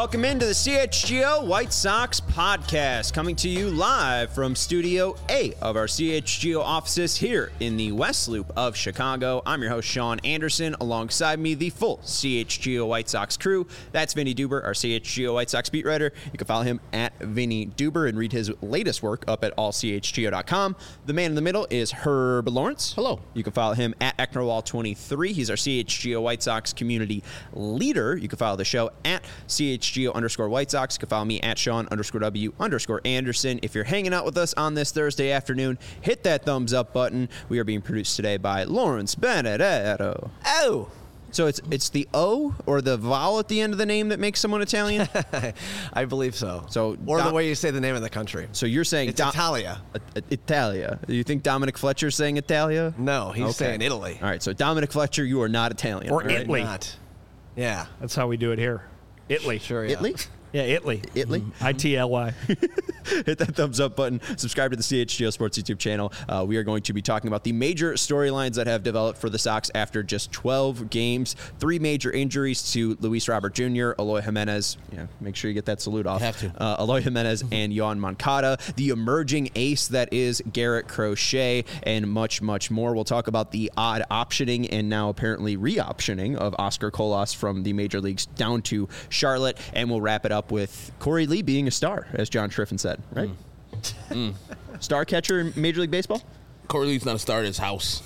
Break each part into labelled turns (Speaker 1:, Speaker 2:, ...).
Speaker 1: welcome into the CHGO White Sox podcast, coming to you live from Studio A of our CHGO offices here in the West Loop of Chicago. I'm your host, Sean Anderson. Alongside me, the full CHGO White Sox crew. That's Vinny Duber, our CHGO White Sox beat writer. You can follow him at Vinny Duber and read his latest work up at allchgo.com. The man in the middle is Herb Lawrence.
Speaker 2: Hello.
Speaker 1: You can follow him at Ecknerwall23. He's our CHGO White Sox community leader. You can follow the show at CHGO_White Sox. You can follow me at Sean_W_Anderson. If you're hanging out with us on this Thursday afternoon, hit that thumbs up button. We are being produced today by Lawrence Benedetto.
Speaker 2: Oh.
Speaker 1: So it's the O or the vowel at the end of the name that makes someone Italian?
Speaker 2: I believe so.
Speaker 1: Or
Speaker 2: the way you say the name of the country.
Speaker 1: So you're saying
Speaker 2: it's Italia.
Speaker 1: Italia. Do you think Dominic Fletcher's saying Italia?
Speaker 2: No, he's saying Italy.
Speaker 1: All right, so Dominic Fletcher, you are not Italian.
Speaker 3: Or
Speaker 1: right?
Speaker 3: Italy.
Speaker 2: Not. Yeah.
Speaker 3: That's how we do it here. Italy.
Speaker 2: Sure, yeah.
Speaker 1: Italy?
Speaker 3: Yeah, Italy.
Speaker 1: Italy?
Speaker 3: ITLY.
Speaker 1: Hit that thumbs up button. Subscribe to the CHGO Sports YouTube channel. We are going to be talking about the major storylines that have developed for the Sox after just 12 games. 3 major injuries to Luis Robert Jr., Eloy Jimenez. Yeah, make sure you get that salute off.
Speaker 2: Have to.
Speaker 1: Eloy Jimenez and Yoan Moncada. The emerging ace that is Garrett Crochet, and much, much more. We'll talk about the odd optioning and now apparently re-optioning of Oscar Colas from the major leagues down to Charlotte, and we'll wrap it up with Corey Lee being a star, as John Triffin said, right? Star catcher in Major League Baseball?
Speaker 4: Corey Lee's not a star at his house.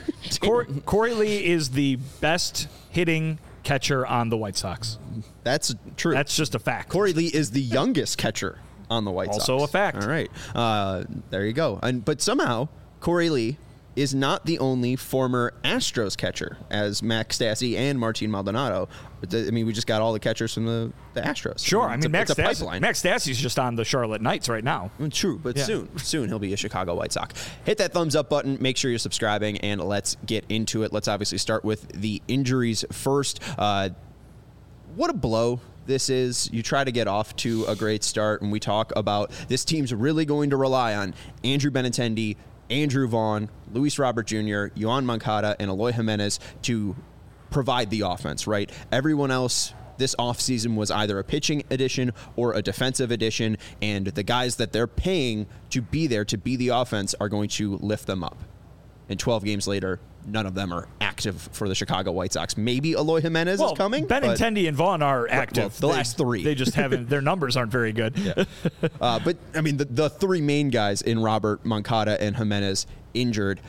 Speaker 3: Corey Lee is the best hitting catcher on the White Sox.
Speaker 1: That's true.
Speaker 3: That's just a fact.
Speaker 1: Corey Lee is the youngest catcher on the White Sox.
Speaker 3: Also a fact.
Speaker 1: All right. There you go. But somehow, Corey Lee is not the only former Astros catcher, as Max Stassi and Martin Maldonado. I mean, we just got all the catchers from the Astros.
Speaker 3: Sure. I mean, Max
Speaker 1: it's a pipeline.
Speaker 3: Stassi's just on the Charlotte Knights right now.
Speaker 1: True, but
Speaker 3: Yeah.
Speaker 1: soon he'll be a Chicago White Sox. Hit that thumbs up button. Make sure you're subscribing, and let's get into it. Let's obviously start with the injuries first. What a blow this is. You try to get off to a great start, and we talk about this team's really going to rely on Andrew Benintendi, Andrew Vaughn, Luis Robert Jr., Yoan Moncada, and Eloy Jimenez to provide the offense, right? Everyone else this offseason was either a pitching addition or a defensive addition, and the guys that they're paying to be there to be the offense are going to lift them up. And 12 games later, none of them are active for the Chicago White Sox. Maybe Eloy Jimenez is coming.
Speaker 3: Benintendi and Vaughn are active.
Speaker 1: Well, the last 3.
Speaker 3: They just haven't. Their numbers aren't very good.
Speaker 1: Yeah. But, I mean, the 3 main guys in Robert, Moncada, and Jimenez injured.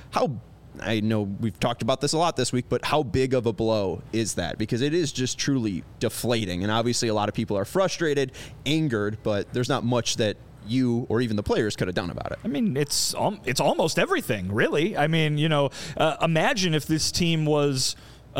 Speaker 1: I know we've talked about this a lot this week, but how big of a blow is that? Because it is just truly deflating. And obviously a lot of people are frustrated, angered, but there's not much that you or even the players could have done about it.
Speaker 3: I mean, it's almost everything, really. I mean, imagine if this team was,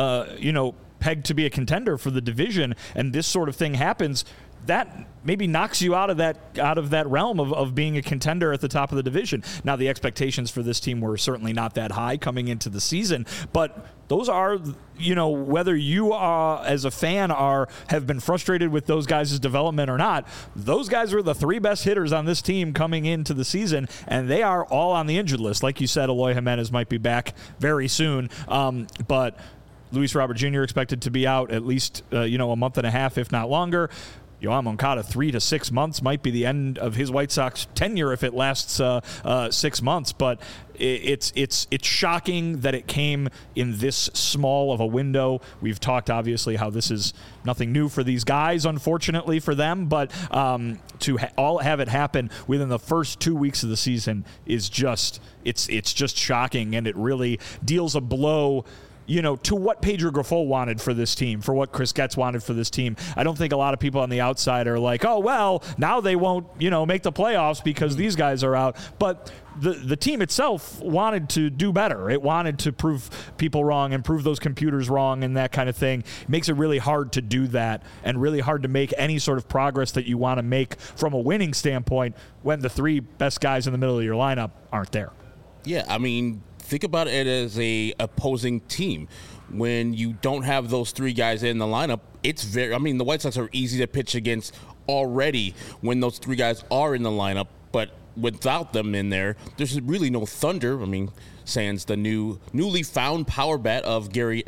Speaker 3: pegged to be a contender for the division, and this sort of thing happens. That maybe knocks you out of that realm of being a contender at the top of the division. Now, the expectations for this team were certainly not that high coming into the season, but those are, whether you are as a fan have been frustrated with those guys' development or not, those guys are the 3 best hitters on this team coming into the season, and they are all on the injured list. Like you said, Eloy Jimenez might be back very soon, but Luis Robert Jr. expected to be out at least, a month and a half, if not longer. Yoan Moncada, 3 to 6 months might be the end of his White Sox tenure if it lasts 6 months. But it's shocking that it came in this small of a window. We've talked obviously how this is nothing new for these guys, unfortunately for them. But to all have it happen within the first 2 weeks of the season is just it's just shocking, and it really deals a blow to what Pedro Grifol wanted for this team, for what Chris Getz wanted for this team. I don't think a lot of people on the outside are like, oh, well, now they won't, make the playoffs because these guys are out. But the team itself wanted to do better. It wanted to prove people wrong and prove those computers wrong and that kind of thing. It makes it really hard to do that and really hard to make any sort of progress that you want to make from a winning standpoint when the 3 best guys in the middle of your lineup aren't there.
Speaker 4: Yeah, I mean, think about it as a opposing team. When you don't have those 3 guys in the lineup, the White Sox are easy to pitch against already when those 3 guys are in the lineup. But without them in there, there's really no thunder. I mean, sans the newly found power bat of Gavin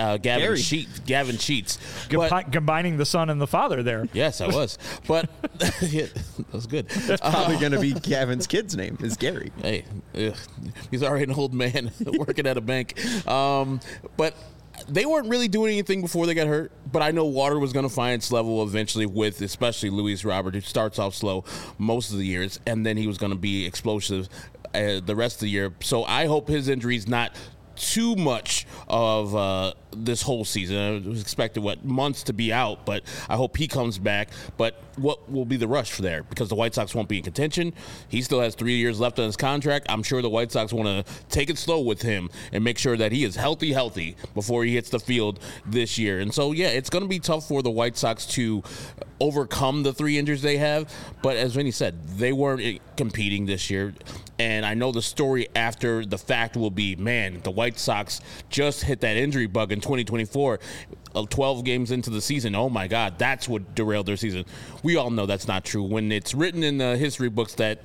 Speaker 4: Sheets.
Speaker 3: Combining the son and the father there.
Speaker 4: Yes, I was. But yeah, that was good.
Speaker 1: That's probably going to be Gavin's kid's name is Gary.
Speaker 4: Hey, he's already an old man working at a bank. But they weren't really doing anything before they got hurt. But I know water was going to find its level eventually with especially Luis Robert, who starts off slow most of the years, and then he was going to be explosive the rest of the year. So I hope his injury is not too much of this whole season. I was expected months to be out, but I hope he comes back. But what will be the rush for there? Because the White Sox won't be in contention. He still has 3 years left on his contract. I'm sure the White Sox want to take it slow with him and make sure that he is healthy before he hits the field this year. And so, yeah, it's going to be tough for the White Sox to overcome the 3 injuries they have. But as Vinny said, they weren't competing this year. And I know the story after the fact will be, man, the White Sox just hit that injury bug in 2024, 12 games into the season. Oh, my God, that's what derailed their season. We all know that's not true. When it's written in the history books that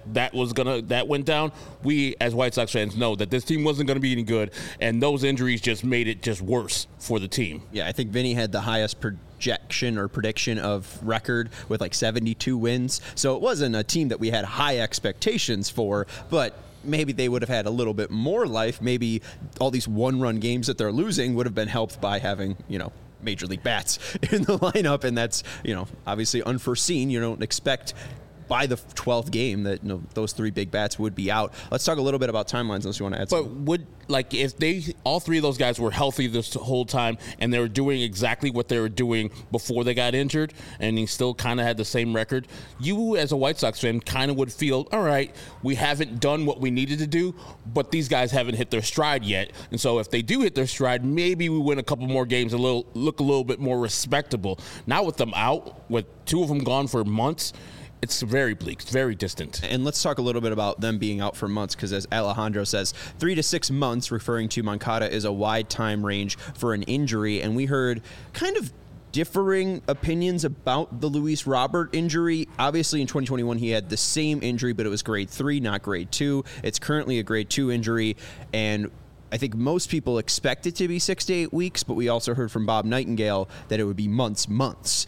Speaker 4: went down, we as White Sox fans know that this team wasn't going to be any good, and those injuries just made it just worse for the team.
Speaker 1: Yeah, I think Vinny had the highest projection or prediction of record with like 72 wins. So it wasn't a team that we had high expectations for, but maybe they would have had a little bit more life. Maybe all these one-run games that they're losing would have been helped by having, major league bats in the lineup, and that's, obviously unforeseen. You don't expect by the 12th game that those 3 big bats would be out. Let's talk a little bit about timelines unless you want to add something.
Speaker 4: But if all 3 of those guys were healthy this whole time and they were doing exactly what they were doing before they got injured, and he still kind of had the same record, you as a White Sox fan kind of would feel, all right, we haven't done what we needed to do, but these guys haven't hit their stride yet. And so if they do hit their stride, maybe we win a couple more games and look a little bit more respectable. Now with them out, with 2 of them gone for months, it's very bleak, very distant.
Speaker 1: And let's talk a little bit about them being out for months, because as Alejandro says, 3 to 6 months, referring to Moncada, is a wide time range for an injury. And we heard kind of differing opinions about the Luis Robert injury. Obviously, in 2021, he had the same injury, but it was grade 3, not grade 2. It's currently a grade 2 injury, and I think most people expect it to be 6 to 8 weeks, but we also heard from Bob Nightingale that it would be months. Months.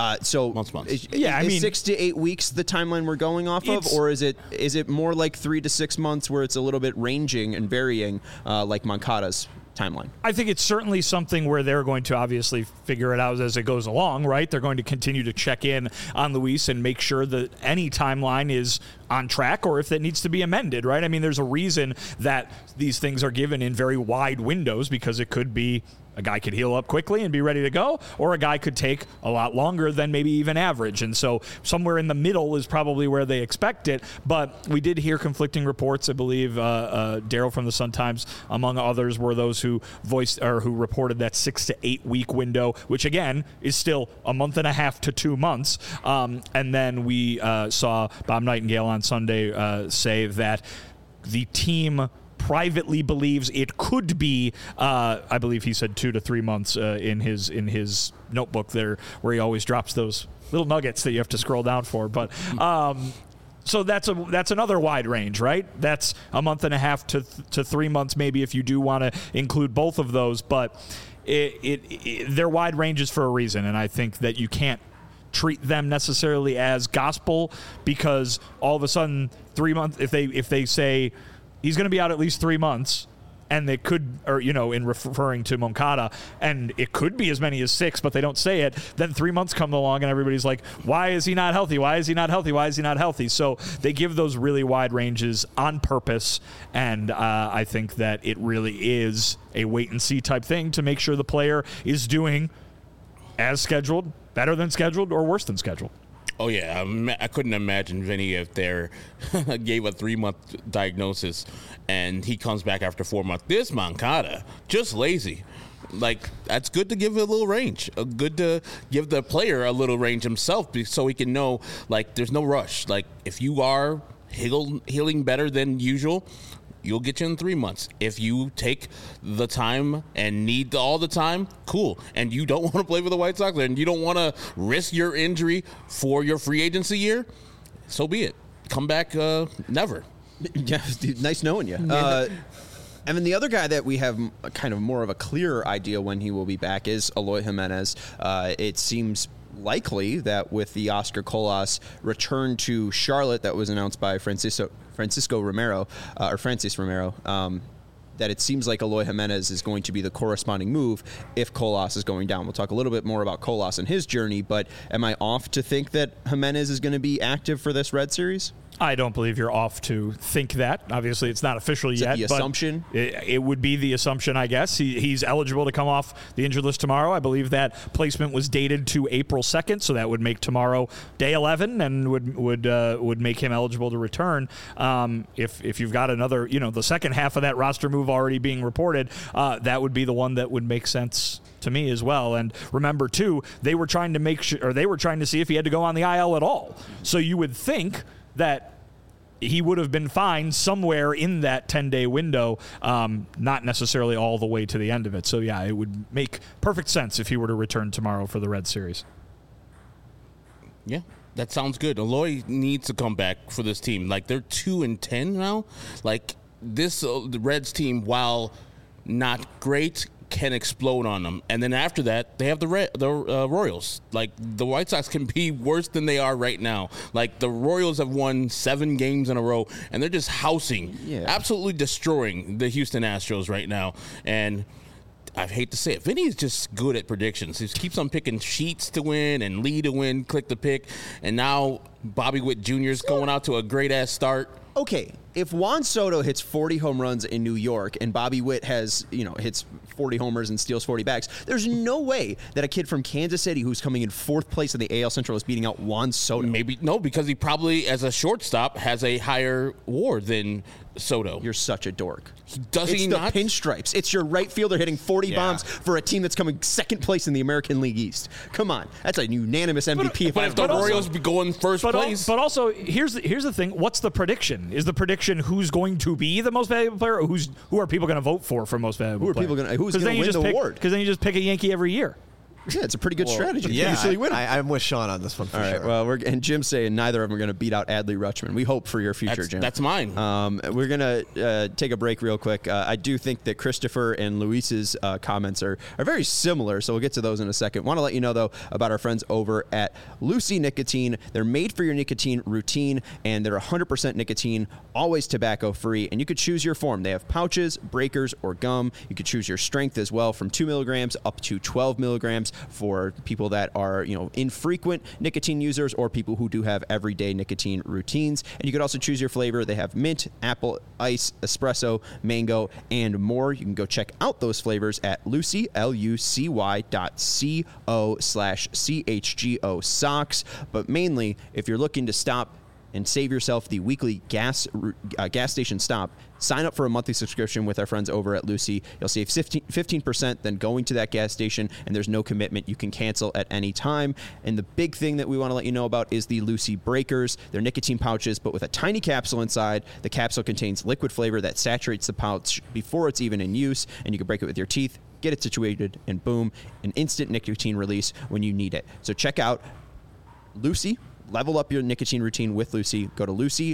Speaker 1: Is 6 to 8 weeks the timeline we're going off of, or is it more like 3 to 6 months where it's a little bit ranging and varying, like Moncada's timeline?
Speaker 3: I think it's certainly something where they're going to obviously figure it out as it goes along, right? They're going to continue to check in on Luis and make sure that any timeline is on track, or if it needs to be amended, right? I mean, there's a reason that these things are given in very wide windows, because it could be a guy could heal up quickly and be ready to go, or a guy could take a lot longer than maybe even average. And so somewhere in the middle is probably where they expect it. But we did hear conflicting reports. I believe Daryl from the Sun-Times, among others, were those who voiced or who reported that 6 to 8 week window, which again is still a month and a half to 2 months. And then we saw Bob Nightingale on Sunday say that the team privately believes it could be, I believe he said 2 to 3 months in his notebook there, where he always drops those little nuggets that you have to scroll down for. But so that's another wide range, right? That's a month and a half to 3 months, maybe, if you do want to include both of those. But they're wide ranges for a reason, and I think that you can't treat them necessarily as gospel, because all of a sudden 3 months, if they say he's going to be out at least 3 months, and they could, or, in referring to Moncada, and it could be as many as 6, but they don't say it, then 3 months come along and everybody's like, why is he not healthy? Why is he not healthy? Why is he not healthy? So they give those really wide ranges on purpose, and I think that it really is a wait-and-see type thing to make sure the player is doing as scheduled, better than scheduled, or worse than scheduled.
Speaker 4: Oh, yeah. I couldn't imagine, Vinny, if they gave a 3-month diagnosis and he comes back after 4 months. This Moncada, just lazy. That's good to give it a little range. Good to give the player a little range himself, so he can know, there's no rush. If you are healing better than usual, you'll get you in 3 months. If you take the time and need all the time, cool. And you don't want to play for the White Sox, and you don't want to risk your injury for your free agency year, so be it. comeback, never.
Speaker 1: Yeah, dude, nice knowing you. And then the other guy that we have kind of more of a clearer idea when he will be back is Eloy Jimenez. It seems likely that with the Oscar Colas return to Charlotte that was announced by Francisco Romero, or Francis Romero, that it seems like Eloy Jimenez is going to be the corresponding move if Colas is going down. We'll talk a little bit more about Colas and his journey, but am I off to think that Jimenez is going to be active for this Red Series?
Speaker 3: I don't believe you're off to think that. Obviously, it's not official yet.
Speaker 1: The assumption?
Speaker 3: It would be the assumption, I guess. He's eligible to come off the injured list tomorrow. I believe that placement was dated to April 2nd, so that would make tomorrow day 11 and would make him eligible to return. If you've got another, the second half of that roster move already being reported, that would be the one that would make sense to me as well. And remember, too, they were trying to see if he had to go on the IL at all. So you would think that he would have been fine somewhere in that 10-day window, not necessarily all the way to the end of it. So, yeah, it would make perfect sense if he were to return tomorrow for the Red Series.
Speaker 4: Yeah, that sounds good. Eloy needs to come back for this team. Like, they're 2-10 now. Like, this the Reds team, while not great, can explode on them. And then after that, they have the Royals. Like, the White Sox can be worse than they are right now. Like, the Royals have won 7 games in a row, and they're just housing, absolutely destroying the Houston Astros right now. And I hate to say it, Vinny is just good at predictions. He keeps on picking Sheets to win and Lee to win, Click to pick. And now Bobby Witt Jr. is going out to a great-ass start.
Speaker 1: Okay, if Juan Soto hits 40 home runs in New York and Bobby Witt hits 40 homers and steals 40 bags, there's no way that a kid from Kansas City who's coming in 4th place in the AL Central is beating out Juan Soto.
Speaker 4: Maybe no, because he probably, as a shortstop, has a higher WAR than Soto.
Speaker 1: You're such a dork.
Speaker 4: Does he not?
Speaker 1: It's the pinstripes. It's your right fielder hitting 40 bombs for a team that's coming 2nd place in the American League East. Come on. That's a unanimous MVP.
Speaker 4: But if the Royals be going first place.
Speaker 3: But also, here's the thing. What's the prediction? Is the prediction who's going to be the most valuable player, or who are people going to vote for most valuable player?
Speaker 1: Who's going to win the award?
Speaker 3: Because then you just pick a Yankee every year.
Speaker 1: Yeah, it's a pretty good strategy.
Speaker 2: Yeah,
Speaker 1: usually win.
Speaker 2: I'm with Sean on this one for
Speaker 1: sure. All right, well, and Jim's saying neither of them are going to beat out Adley Rutschman. We hope for your future, Jim.
Speaker 4: That's mine.
Speaker 1: We're going to take a break real quick. I do think that Christopher and Luis's comments are very similar, so we'll get to those in a second. Want to let you know, though, about our friends over at Lucy Nicotine. They're made for your nicotine routine, and they're 100% nicotine, always tobacco-free, and you could choose your form. They have pouches, breakers, or gum. You could choose your strength as well, from 2 milligrams up to 12 milligrams for people that are, infrequent nicotine users or people who do have everyday nicotine routines. And you could also choose your flavor. They have mint, apple, ice, espresso, mango, and more. You can go check out those flavors at Lucy, lucy.co/CHGO socks. But mainly, if you're looking to stop and save yourself the weekly gas station stop, sign up for a monthly subscription with our friends over at Lucy. You'll save 15% then going to that gas station, and there's no commitment. You can cancel at any time. And the big thing that we want to let you know about is the Lucy Breakers. They're nicotine pouches, but with a tiny capsule inside. The capsule contains liquid flavor that saturates the pouch before it's even in use, and you can break it with your teeth, get it situated, and boom, an instant nicotine release when you need it. So check out Lucy. Level up your nicotine routine with Lucy. Go to Lucy,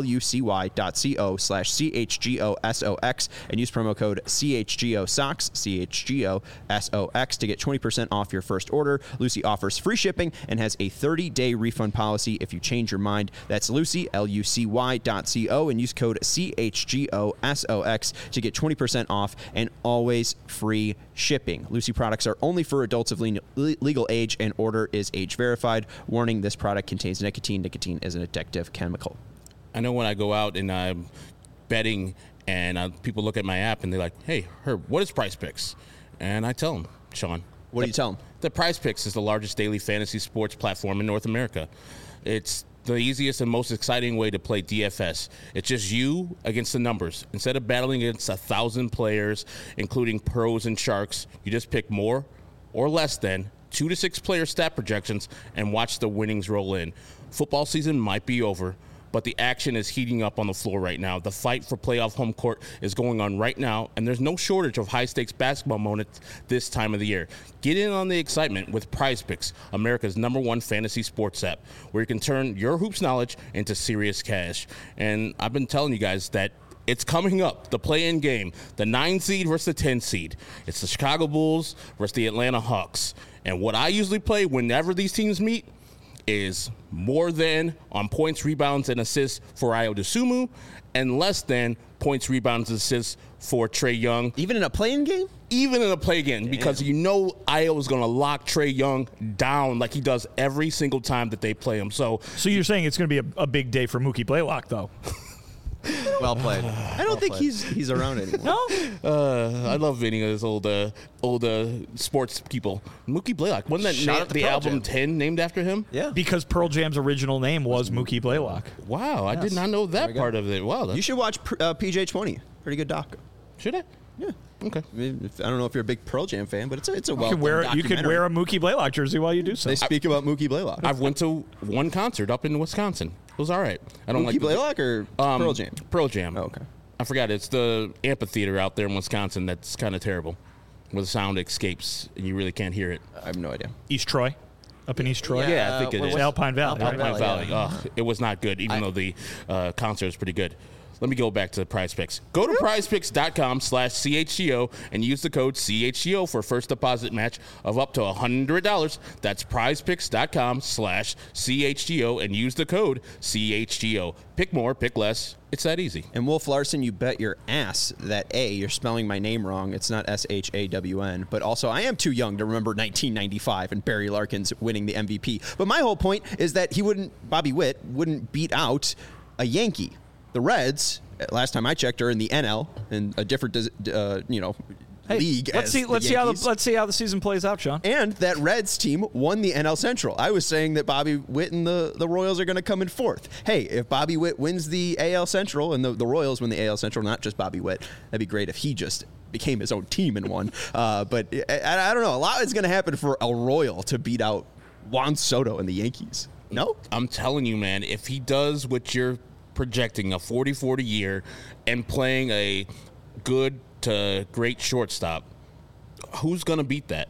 Speaker 1: lucy.co/CHGOSOX, and use promo code CHGOSOX, CHGOSOX, to get 20% off your first order. Lucy offers free shipping and has a 30-day refund policy if you change your mind. That's Lucy, LUCY.co, and use code CHGOSOX to get 20% off and always free shipping. Lucy products are only for adults of legal age, and order is age verified. Warning, this product contains nicotine. Nicotine is an addictive chemical.
Speaker 4: I know when I go out and I'm betting and people look at my app and they're like, hey, Herb, what is Prize Picks? And I tell them, Sean.
Speaker 1: What do you tell them?
Speaker 4: The Prize Picks is the largest daily fantasy sports platform in North America. It's the easiest and most exciting way to play DFS. It's just you against the numbers. Instead of battling against 1,000 players, including pros and sharks, you just pick more or less than 2 to 6 player stat projections and watch the winnings roll in. Football season might be over, but the action is heating up on the floor right now. The fight for playoff home court is going on right now, and there's no shortage of high-stakes basketball moments this time of the year. Get in on the excitement with PrizePicks, America's #1 fantasy sports app, where you can turn your hoops knowledge into serious cash. And I've been telling you guys that it's coming up, the play-in game, the 9 seed versus the 10 seed. It's the Chicago Bulls versus the Atlanta Hawks. And what I usually play whenever these teams meet is more than on points, rebounds, and assists for Ayo Dosunmu, and less than points, rebounds, and assists for Trae Young.
Speaker 1: Even in a play-in game?
Speaker 4: Even in a play game, because you know Ayo is going to lock Trae Young down like he does every single time that they play him. So
Speaker 3: you're saying it's going to be a big day for Mookie Blaylock, though?
Speaker 2: Well played.
Speaker 1: I don't think he's around anymore.
Speaker 3: No?
Speaker 4: I love any of those old sports people. Mookie Blaylock. Wasn't
Speaker 2: Shout out
Speaker 4: that
Speaker 2: to
Speaker 4: the
Speaker 2: Pearl
Speaker 4: album
Speaker 2: Jam.
Speaker 4: 10 named after him?
Speaker 2: Yeah.
Speaker 3: Because Pearl Jam's original name was Mookie Blaylock.
Speaker 4: Wow, I did not know that part of it. Wow.
Speaker 1: You should watch PJ20. Pretty good doc.
Speaker 4: Should I?
Speaker 1: Yeah.
Speaker 4: Okay.
Speaker 1: I don't know if you're a big Pearl Jam fan, but it's a well
Speaker 3: You could wear a Mookie Blaylock jersey while you do so.
Speaker 1: They speak about Mookie Blaylock.
Speaker 4: I've went to one concert up in Wisconsin. It was all right. I don't
Speaker 1: Mookie
Speaker 4: like
Speaker 1: Blaylock or Pearl Jam?
Speaker 4: Pearl Jam.
Speaker 1: Oh, okay.
Speaker 4: I forgot. It's the amphitheater out there in Wisconsin that's kind of terrible, where the sound escapes and you really can't hear it.
Speaker 1: I have no idea.
Speaker 3: East Troy? Up in East Troy?
Speaker 4: Yeah, I think it is.
Speaker 3: Alpine Valley.
Speaker 2: Alpine
Speaker 3: right?
Speaker 4: Valley. Ugh, it was not good, even though the concert was pretty good. Let me go back to the PrizePicks. Go to prizepicks.com/CHGO and use the code CHGO for a first deposit match of up to $100. That's prizepicks.com/CHGO and use the code CHGO. Pick more, pick less. It's that easy.
Speaker 1: And Wolf Larson, you bet your ass that A, you're spelling my name wrong. It's not SHAWN. But also, I am too young to remember 1995 and Barry Larkins winning the MVP. But my whole point is that Bobby Witt wouldn't beat out a Yankee. The Reds, last time I checked, are in the NL in a different, league.
Speaker 3: Let's see how the season plays out, Sean.
Speaker 1: And that Reds team won the NL Central. I was saying that Bobby Witt and the Royals are going to come in fourth. Hey, if Bobby Witt wins the AL Central and the Royals win the AL Central, not just Bobby Witt, that'd be great if he just became his own team and won. But I don't know. A lot is going to happen for a Royal to beat out Juan Soto and the Yankees. No?
Speaker 4: I'm telling you, man, if he does what you're projecting, a 40-40 year, and playing a good to great shortstop, who's going to beat that?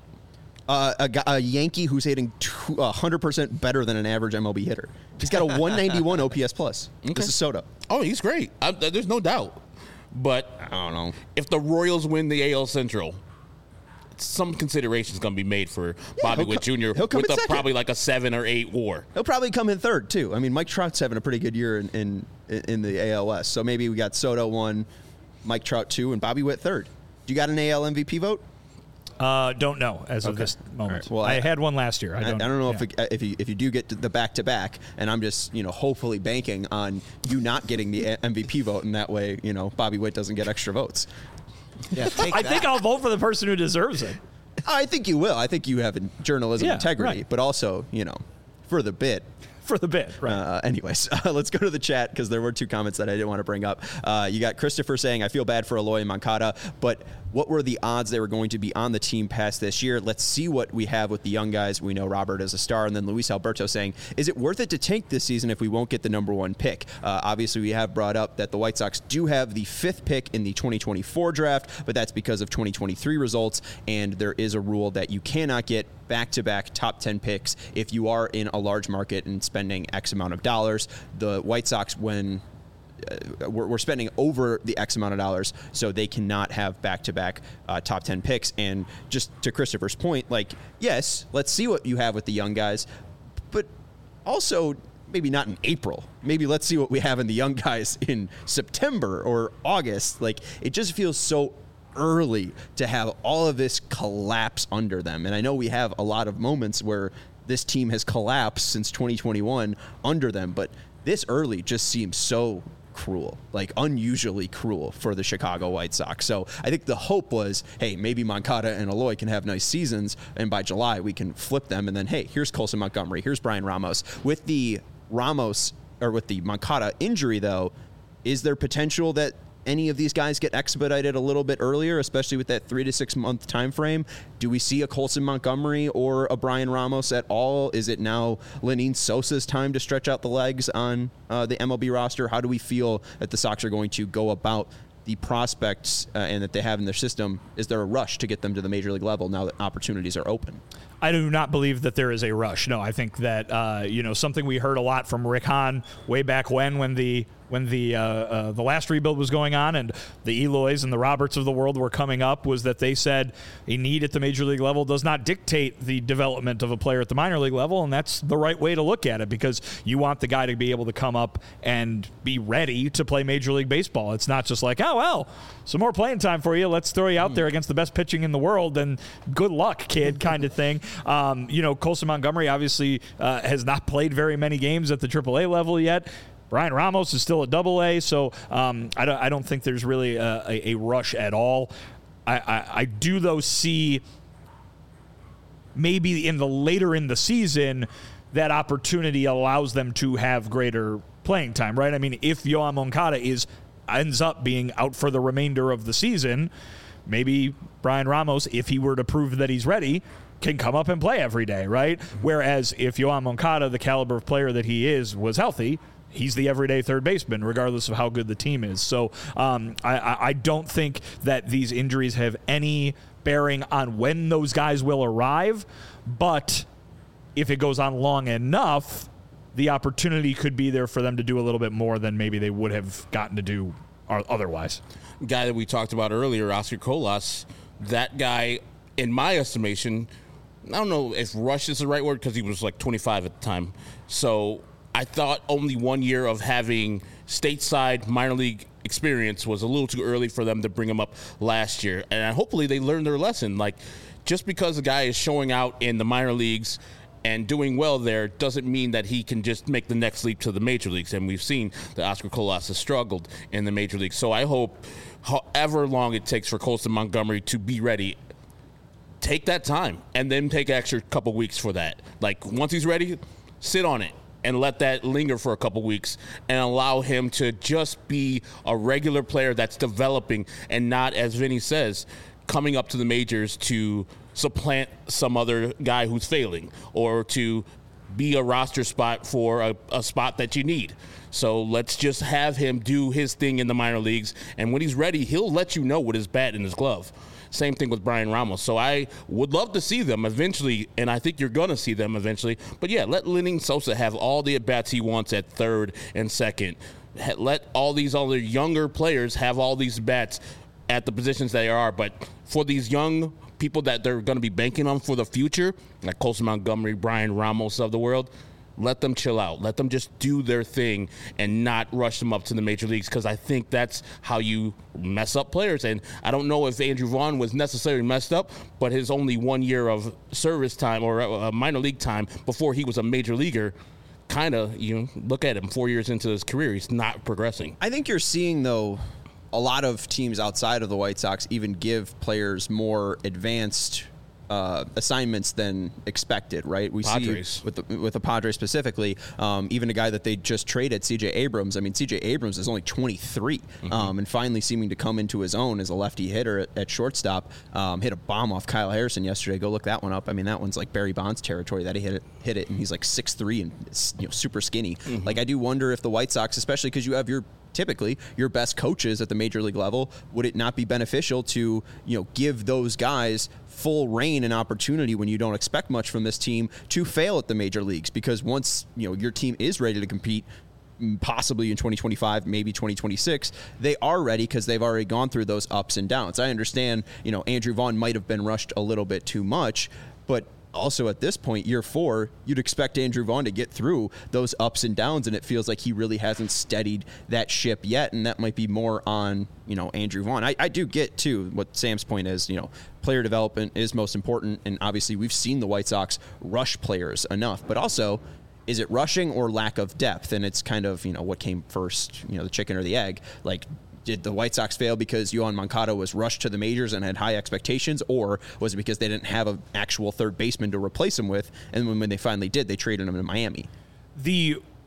Speaker 1: A Yankee who's hitting 100% better than an average MLB hitter. He's got a 191 OPS plus.
Speaker 4: Okay.
Speaker 1: This is Soto.
Speaker 4: Oh, he's great. There's no doubt. But
Speaker 1: I don't know.
Speaker 4: If the Royals win the AL Central, some consideration is going to be made for Bobby Witt Jr.
Speaker 1: He'll come
Speaker 4: with
Speaker 1: in second.
Speaker 4: probably like a 7 or 8 WAR.
Speaker 1: He'll probably come in third, too. I mean, Mike Trout's having a pretty good year in the AL West. So maybe we got Soto 1, Mike Trout 2, and Bobby Witt 3rd. Do you got an AL MVP vote?
Speaker 3: Don't know as of this moment.
Speaker 1: Right. Well,
Speaker 3: I had one last year.
Speaker 1: I don't know if you do get to the back-to-back, and I'm just hopefully banking on you not getting the MVP vote, and that way Bobby Witt doesn't get extra votes.
Speaker 2: Yeah,
Speaker 3: I think I'll vote for the person who deserves it.
Speaker 1: I think you will. I think you have journalism integrity,
Speaker 3: right.
Speaker 1: but also for the bit.
Speaker 3: For the bit, right.
Speaker 1: Anyways, let's go to the chat because there were 2 comments that I didn't want to bring up. You got Christopher saying, I feel bad for Eloy and Moncada, but what were the odds they were going to be on the team past this year? Let's see what we have with the young guys. We know Robert is a star. And then Luis Alberto saying, is it worth it to tank this season if we won't get the #1 pick? Obviously, we have brought up that the White Sox do have the 5th pick in the 2024 draft, but that's because of 2023 results. And there is a rule that you cannot get back-to-back top 10 picks if you are in a large market and spending X amount of dollars. The White Sox, when we're spending over the X amount of dollars, so they cannot have back-to-back top 10 picks. And just to Christopher's point, yes, let's see what you have with the young guys, but also maybe not in April. Maybe let's see what we have in the young guys in September or August. It just feels so early to have all of this collapse under them. And I know we have a lot of moments where this team has collapsed since 2021 under them, but this early just seems so cruel, unusually cruel for the Chicago White Sox. So I think the hope was, hey, maybe Moncada and Eloy can have nice seasons, and by July we can flip them, and then, hey, here's Colson Montgomery, here's Brian Ramos. With the Moncada injury, though, is there potential that any of these guys get expedited a little bit earlier, especially with that 3 to 6 month time frame? Do we see a Colson Montgomery or a Brian Ramos at all? Is it now Lenyn Sosa's time to stretch out the legs on the MLB roster? How do we feel that the Sox are going to go about the prospects and that they have in their system? Is there a rush to get them to the major league level now that opportunities are open?
Speaker 3: I do not believe that there is a rush. No, I think that something we heard a lot from Rick Hahn way back when the last rebuild was going on and the Eloys and the Roberts of the world were coming up was that they said a need at the major league level does not dictate the development of a player at the minor league level, and that's the right way to look at it because you want the guy to be able to come up and be ready to play Major League Baseball. It's not just like, oh, well, some more playing time for you. Let's throw you out there against the best pitching in the world and good luck, kid, kind of thing. Colson Montgomery obviously has not played very many games at the AAA level yet. Brian Ramos is still at AA, so I don't think there's really a rush at all. I do, though, see maybe later in the season that opportunity allows them to have greater playing time, right? I mean, if Yoan Moncada ends up being out for the remainder of the season, maybe Brian Ramos, if he were to prove that he's ready, can come up and play every day, right? Whereas if Yoan Moncada, the caliber of player that he is, was healthy, he's the everyday third baseman, regardless of how good the team is. So I don't think that these injuries have any bearing on when those guys will arrive, but if it goes on long enough, the opportunity could be there for them to do a little bit more than maybe they would have gotten to do otherwise.
Speaker 4: Guy that we talked about earlier, Oscar Colas, that guy, in my estimation, I don't know if rush is the right word because he was like 25 at the time. So I thought only 1 year of having stateside minor league experience was a little too early for them to bring him up last year. And hopefully they learned their lesson. Like, just because a guy is showing out in the minor leagues and doing well there doesn't mean that he can just make the next leap to the major leagues. And we've seen that Oscar Colas has struggled in the major leagues. So I hope, however long it takes for Colson Montgomery to be ready, take that time and then take an extra couple weeks for that. Like, once he's ready, sit on it and let that linger for a couple weeks and allow him to just be a regular player that's developing and not, as Vinny says, coming up to the majors to supplant some other guy who's failing or to be a roster spot for a spot that you need. So let's just have him do his thing in the minor leagues, and when he's ready, he'll let you know with his bat and his glove. Same thing with Brian Ramos. So I would love to see them eventually, and I think you're going to see them eventually. But, yeah, let Lenyn Sosa have all the at-bats he wants at third and second. Let all these other younger players have all these bats at the positions they are. But for these young people that they're going to be banking on for the future, like Colson Montgomery, Brian Ramos of the world, let them chill out. Let them just do their thing and not rush them up to the major leagues, because I think that's how you mess up players. And I don't know if Andrew Vaughn was necessarily messed up, but his only 1 year of service time or minor league time before he was a major leaguer, kind of, look at him 4 years into his career, he's not progressing.
Speaker 1: I think you're seeing, though, a lot of teams outside of the White Sox even give players more advanced assignments than expected, right? We
Speaker 4: Padres.
Speaker 1: see with the Padres specifically, even a guy that they just traded, C.J. Abrams. I mean, C.J. Abrams is only 23, and finally seeming to come into his own as a lefty hitter at shortstop. Hit a bomb off Kyle Harrison yesterday. Go look that one up. I mean, that one's like Barry Bonds territory that he hit it, and he's like 6'3" and super skinny. Like, I do wonder if the White Sox, especially because you have typically your best coaches at the major league level, would it not be beneficial to give those guys full reign and opportunity when you don't expect much from this team to fail at the major leagues? Because once your team is ready to compete, possibly in 2025, maybe 2026, they are ready because they've already gone through those ups and downs. I understand Andrew Vaughn might have been rushed a little bit too much, but also at this point, year 4, you'd expect Andrew Vaughn to get through those ups and downs, and it feels like he really hasn't steadied that ship yet, and that might be more on Andrew Vaughn. I do get too what Sam's point is. Player development is most important, and obviously we've seen the White Sox rush players enough, but also, is it rushing or lack of depth? And it's kind of what came first, the chicken or the egg? Like, did the White Sox fail because Yoan Moncada was rushed to the majors and had high expectations, or was it because they didn't have an actual third baseman to replace him with, and when they finally did, they traded him to Miami?
Speaker 3: The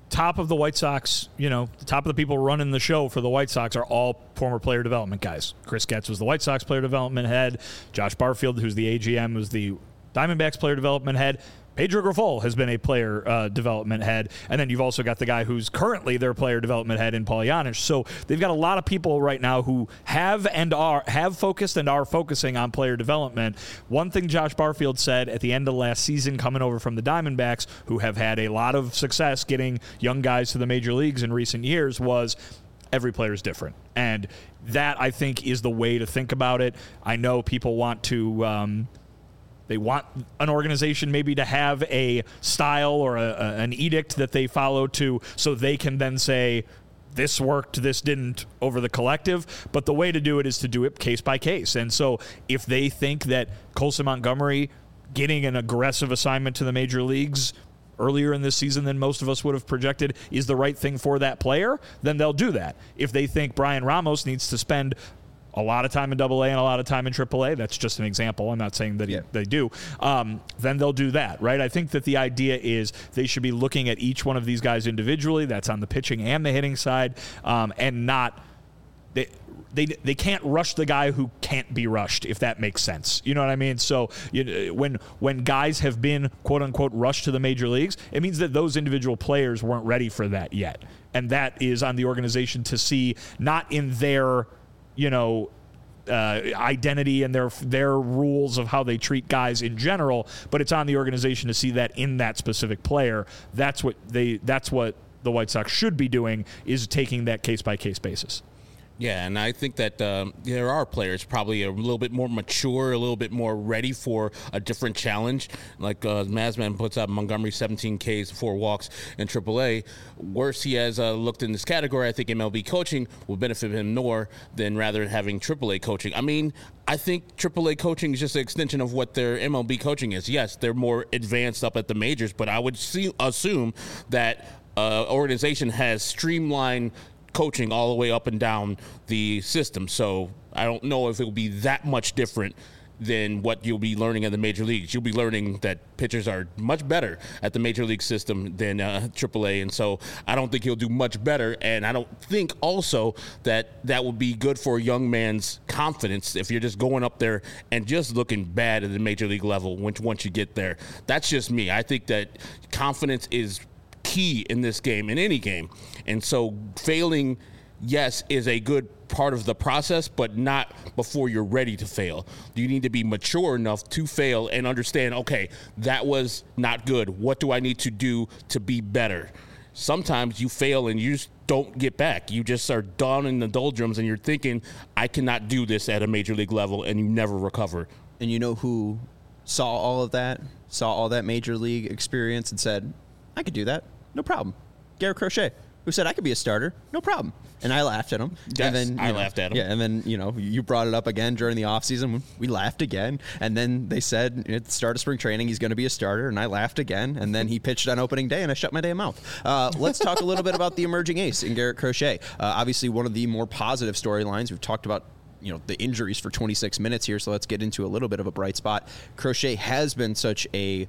Speaker 3: top of the White Sox, the top of the people running the show for the White Sox are all former player development guys. Chris Getz was the White Sox player development head. Josh Barfield, who's the AGM, was the Diamondbacks player development head. Pedro Grifol has been a player development head. And then you've also got the guy who's currently their player development head in Paul Janich. So they've got a lot of people right now who have focused and are focusing on player development. One thing Josh Barfield said at the end of last season, coming over from the Diamondbacks, who have had a lot of success getting young guys to the major leagues in recent years, was every player is different. And that, I think, is the way to think about it. I know people want to... They want an organization maybe to have a style or an edict that they follow to, so they can then say, this worked, this didn't, over the collective. But the way to do it is to do it case by case. And so if they think that Colson Montgomery getting an aggressive assignment to the major leagues earlier in this season than most of us would have projected is the right thing for that player, then they'll do that. If they think Brian Ramos needs to spend a lot of time in AA and a lot of time in AAA, that's just an example. I'm not saying that they do. Then they'll do that, right? I think that the idea is they should be looking at each one of these guys individually. That's on the pitching and the hitting side, and not they can't rush the guy who can't be rushed, if that makes sense. You know what I mean? So when guys have been quote unquote rushed to the major leagues, it means that those individual players weren't ready for that yet, and that is on the organization to see, not in their identity and their rules of how they treat guys in general, but it's on the organization to see that in that specific player. That's what the White Sox should be doing, is taking that case by case basis.
Speaker 4: Yeah, and I think that there are players probably a little bit more mature, a little bit more ready for a different challenge. Like Mazman puts up Montgomery 17 Ks, 4 walks in AAA. Worse, he has looked in this category. I think MLB coaching will benefit him more than rather than having AAA coaching. I mean, I think AAA coaching is just an extension of what their MLB coaching is. Yes, they're more advanced up at the majors, but I would assume that organization has streamlined coaching all the way up and down the system. So I don't know if it will be that much different than what you'll be learning in the major leagues. You'll be learning that pitchers are much better at the major league system than AAA, and so I don't think he'll do much better, and I don't think also that would be good for a young man's confidence if you're just going up there and just looking bad at the major league level once you get there. That's just me. I think that confidence is key in this game, in any game. And so failing, yes, is a good part of the process, but not before you're ready to fail. You need to be mature enough to fail and understand, okay, that was not good. What do I need to do to be better? Sometimes you fail and you just don't get back. You just are down in the doldrums and you're thinking, I cannot do this at a major league level, and you never recover.
Speaker 1: And you know who saw all that major league experience and said, I could do that, no problem? Garrett Crochet, who said I could be a starter, no problem. And I laughed at him.
Speaker 4: Yes,
Speaker 1: and then,
Speaker 4: I laughed at him.
Speaker 1: Yeah, and then, you brought it up again during the offseason. We laughed again. And then they said at the start of spring training he's going to be a starter, and I laughed again. And then he pitched on opening day, and I shut my damn mouth. Let's talk a little bit about the emerging ace in Garrett Crochet. Obviously, one of the more positive storylines. We've talked about the injuries for 26 minutes here, so let's get into a little bit of a bright spot. Crochet has been such a...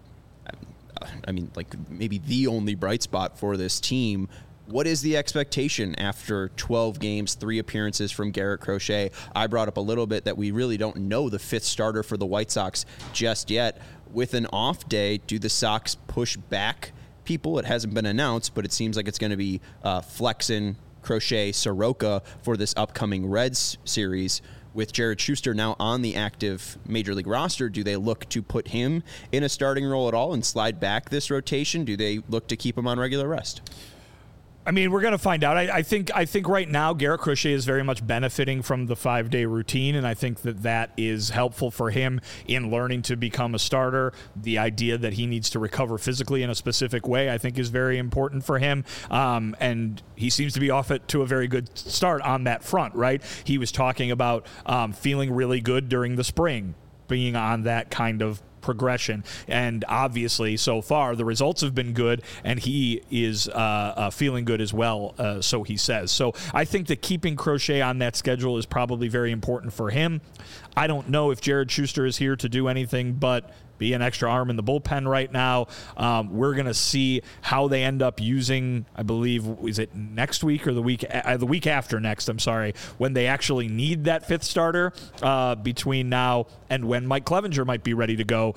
Speaker 1: maybe the only bright spot for this team. What is the expectation after 12 games, 3 appearances from Garrett Crochet? I brought up a little bit that we really don't know the 5th starter for the White Sox just yet. With an off day, do the Sox push back people? It hasn't been announced, but it seems like it's going to be Flexen, Crochet, Soroka for this upcoming Reds series. With Jared Schuster now on the active Major League roster, do they look to put him in a starting role at all and slide back this rotation? Do they look to keep him on regular rest?
Speaker 3: I mean, we're going to find out. I think right now Garrett Crochet is very much benefiting from the 5-day routine, and I think that is helpful for him in learning to become a starter. The idea that he needs to recover physically in a specific way, I think, is very important for him, and he seems to be off it to a very good start on that front, right? He was talking about feeling really good during the spring, being on that kind of progression, and obviously so far the results have been good, and he is feeling good as well, so he says. So I think that keeping Crochet on that schedule is probably very important for him. I don't know if Jared Schuster is here to do anything but be an extra arm in the bullpen right now. We're going to see how they end up using, I believe, is it next week or the week after next, I'm sorry, when they actually need that fifth starter between now and when Mike Clevenger might be ready to go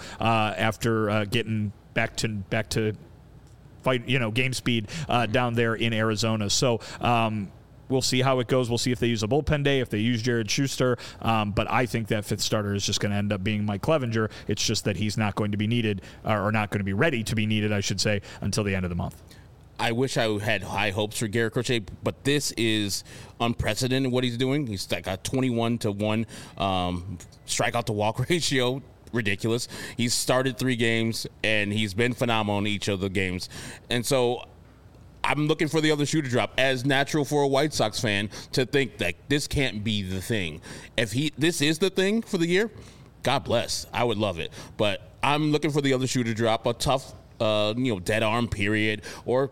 Speaker 3: after getting back to fight, game speed down there in Arizona. So we'll see how it goes. We'll see if they use a bullpen day, if they use Jared Schuster. But I think that fifth starter is just going to end up being Mike Clevenger. It's just that he's not going to be needed, or not going to be ready to be needed, I should say, until the end of the month.
Speaker 4: I wish I had high hopes for Garrett Crochet, but this is unprecedented what he's doing. He's got 21-1 strikeout to walk ratio. Ridiculous. He's started 3 games, and he's been phenomenal in each of the games. And so I'm looking for the other shoe to drop. As natural for a White Sox fan to think that this can't be the thing. If this is the thing for the year, God bless. I would love it. But I'm looking for the other shoe to drop. A tough, dead arm period, or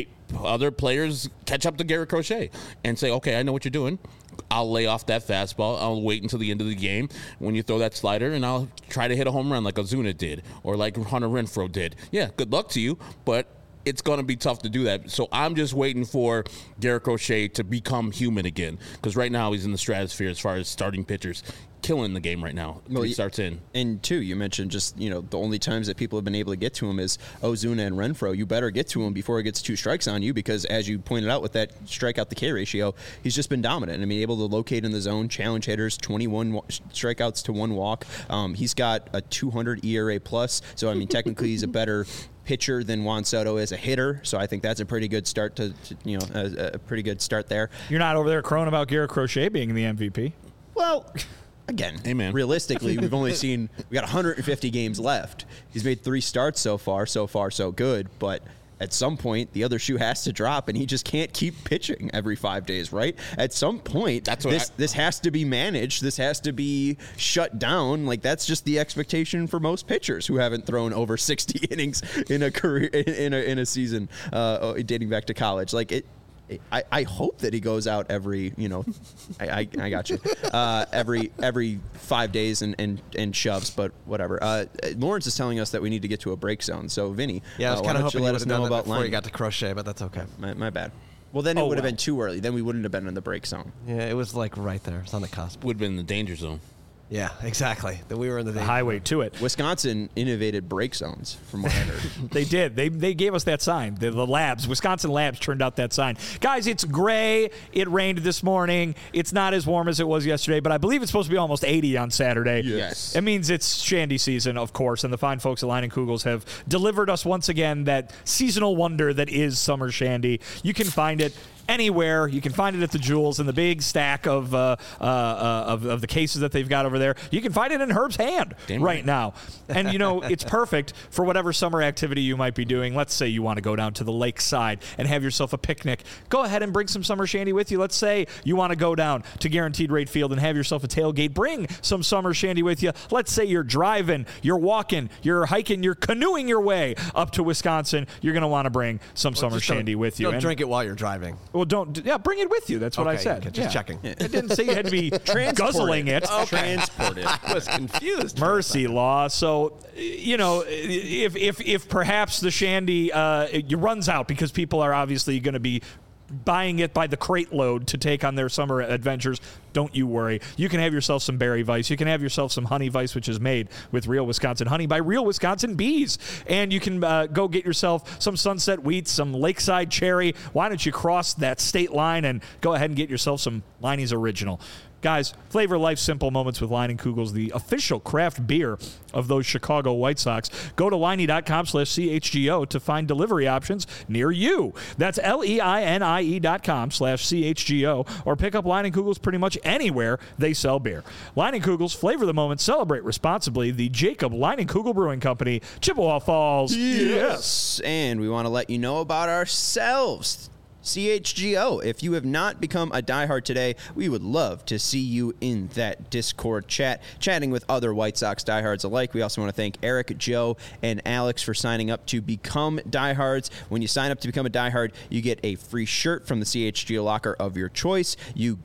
Speaker 4: other players catch up to Garrett Crochet and say, okay, I know what you're doing. I'll lay off that fastball. I'll wait until the end of the game when you throw that slider, and I'll try to hit a home run like Ozuna did or like Hunter Renfroe did. Yeah, good luck to you, but it's going to be tough to do that. So I'm just waiting for Garrett Crochet to become human again, because right now he's in the stratosphere as far as starting pitchers. Killing the game right now. He starts in.
Speaker 1: And two, you mentioned just, the only times that people have been able to get to him is Ozuna and Renfroe. You better get to him before he gets 2 strikes on you, because as you pointed out with that strikeout to K ratio, he's just been dominant. I mean, able to locate in the zone, challenge hitters, 21 strikeouts to 1 walk. He's got a 200 ERA plus. So, I mean, technically he's a better pitcher than Juan Soto is a hitter. So I think that's a pretty good start to a pretty good start there.
Speaker 3: You're not over there crowing about Garrett Crochet being the MVP.
Speaker 1: Well, again,
Speaker 4: Amen.
Speaker 1: Realistically, we got 150 games left. He's made 3 starts so far so good, but at some point the other shoe has to drop, and he just can't keep pitching every 5 days, right? At some point, this has to be managed. This has to be shut down. Like, that's just the expectation for most pitchers who haven't thrown over 60 innings in a career in a season dating back to college. Like it. I hope that he goes out every, I got you, every 5 days and shoves, but whatever. Lawrence is telling us that we need to get to a break zone. So, Vinny,
Speaker 2: I was kind of hoping you
Speaker 1: let
Speaker 2: would
Speaker 1: us
Speaker 2: have
Speaker 1: know
Speaker 2: done that
Speaker 1: about
Speaker 2: before
Speaker 1: line.
Speaker 2: you got to Crochet, but that's okay.
Speaker 1: My bad. Well, then it would have been too early. Then we wouldn't have been in the break zone.
Speaker 2: Yeah, it was like right there. It's on the cusp.
Speaker 4: Would have been in the danger zone.
Speaker 2: Yeah, exactly. That we were in the
Speaker 3: highway to it.
Speaker 1: Wisconsin innovated break zones, from what I heard.
Speaker 3: They did. They gave us that sign. The labs, Wisconsin Labs, turned out that sign. Guys, it's gray. It rained this morning. It's not as warm as it was yesterday, but I believe it's supposed to be almost 80 on Saturday.
Speaker 1: Yes.
Speaker 3: It means it's Shandy season, of course, and the fine folks at Line and Kugels have delivered us once again that seasonal wonder that is summer Shandy. You can find it anywhere. You can find it at the Jewels in the big stack of the cases that they've got over there. You can find it in Herb's hand right now. And, it's perfect for whatever summer activity you might be doing. Let's say you want to go down to the lakeside and have yourself a picnic. Go ahead and bring some summer Shandy with you. Let's say you want to go down to Guaranteed Rate Field and have yourself a tailgate. Bring some summer Shandy with you. Let's say you're driving, you're walking, you're hiking, you're canoeing your way up to Wisconsin. You're going to want to bring some summer Shandy with you.
Speaker 2: Don't drink it while you're driving.
Speaker 3: Well, bring it with you. That's what I said.
Speaker 2: Okay, just checking.
Speaker 3: I didn't say you had to be guzzling it.
Speaker 1: Transport it.
Speaker 2: I was confused.
Speaker 3: Mercy law. So, if perhaps the Shandy runs out because people are obviously going to be buying it by the crate load to take on their summer adventures, don't you worry. You can have yourself some berry Vice. You can have yourself some honey Vice, which is made with real Wisconsin honey by real Wisconsin bees. And you can go get yourself some Sunset Wheat, some Lakeside Cherry. Why don't you cross that state line and go ahead and get yourself some Liney's Original. Guys, flavor life's simple moments with Line and Kugels, the official craft beer of those Chicago White Sox. Go to Liney.com/CHGO to find delivery options near you. That's LEINIE.com/CHGO, or pick up Line and Kugels pretty much anywhere they sell beer. Line and Kugels, flavor the moment, celebrate responsibly. The Jacob Line and Kugel Brewing Company, Chippewa Falls.
Speaker 1: Yes. And we want to let you know about ourselves. CHGO. If you have not become a diehard today, we would love to see you in that Discord chatting with other White Sox diehards alike. We also want to thank Eric, Joe, and Alex for signing up to become diehards. When you sign up to become a diehard, you get a free shirt from the CHGO locker of your choice. You get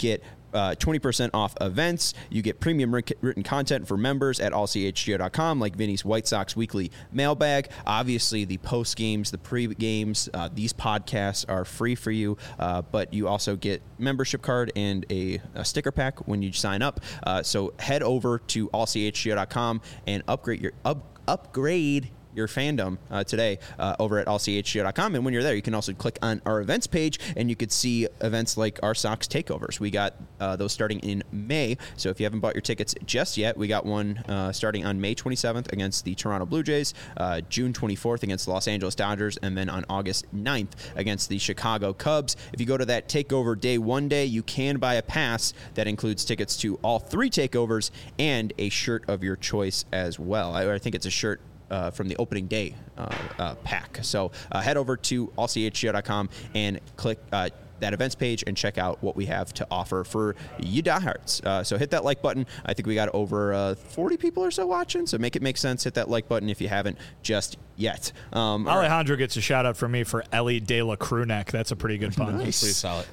Speaker 1: 20% off events. You get premium written content for members at allchgo.com, like Vinny's White Sox Weekly Mailbag. Obviously, the post games, the pre games, these podcasts are free for you, but you also get membership card and a sticker pack when you sign up. So head over to allchgo.com and upgrade your fandom today over at allchgo.com. And when you're there, you can also click on our events page, and you could see events like our Sox takeovers. We got those starting in May. So if you haven't bought your tickets just yet, we got one starting on May 27th against the Toronto Blue Jays, June 24th against the Los Angeles Dodgers, and then on August 9th against the Chicago Cubs. If you go to that takeover day one day, you can buy a pass that includes tickets to all 3 takeovers and a shirt of your choice as well. I think it's a shirt from the opening day pack. So head over to allchgo.com and click that events page and check out what we have to offer for you diehards. So hit that like button. I think we got over 40 people or so watching, so make it make sense. Hit that like button if you haven't just yet.
Speaker 3: Alejandro gets a shout out from me for Ellie De La Crewneck. That's a pretty good pun.
Speaker 1: Nice.
Speaker 4: Pretty solid.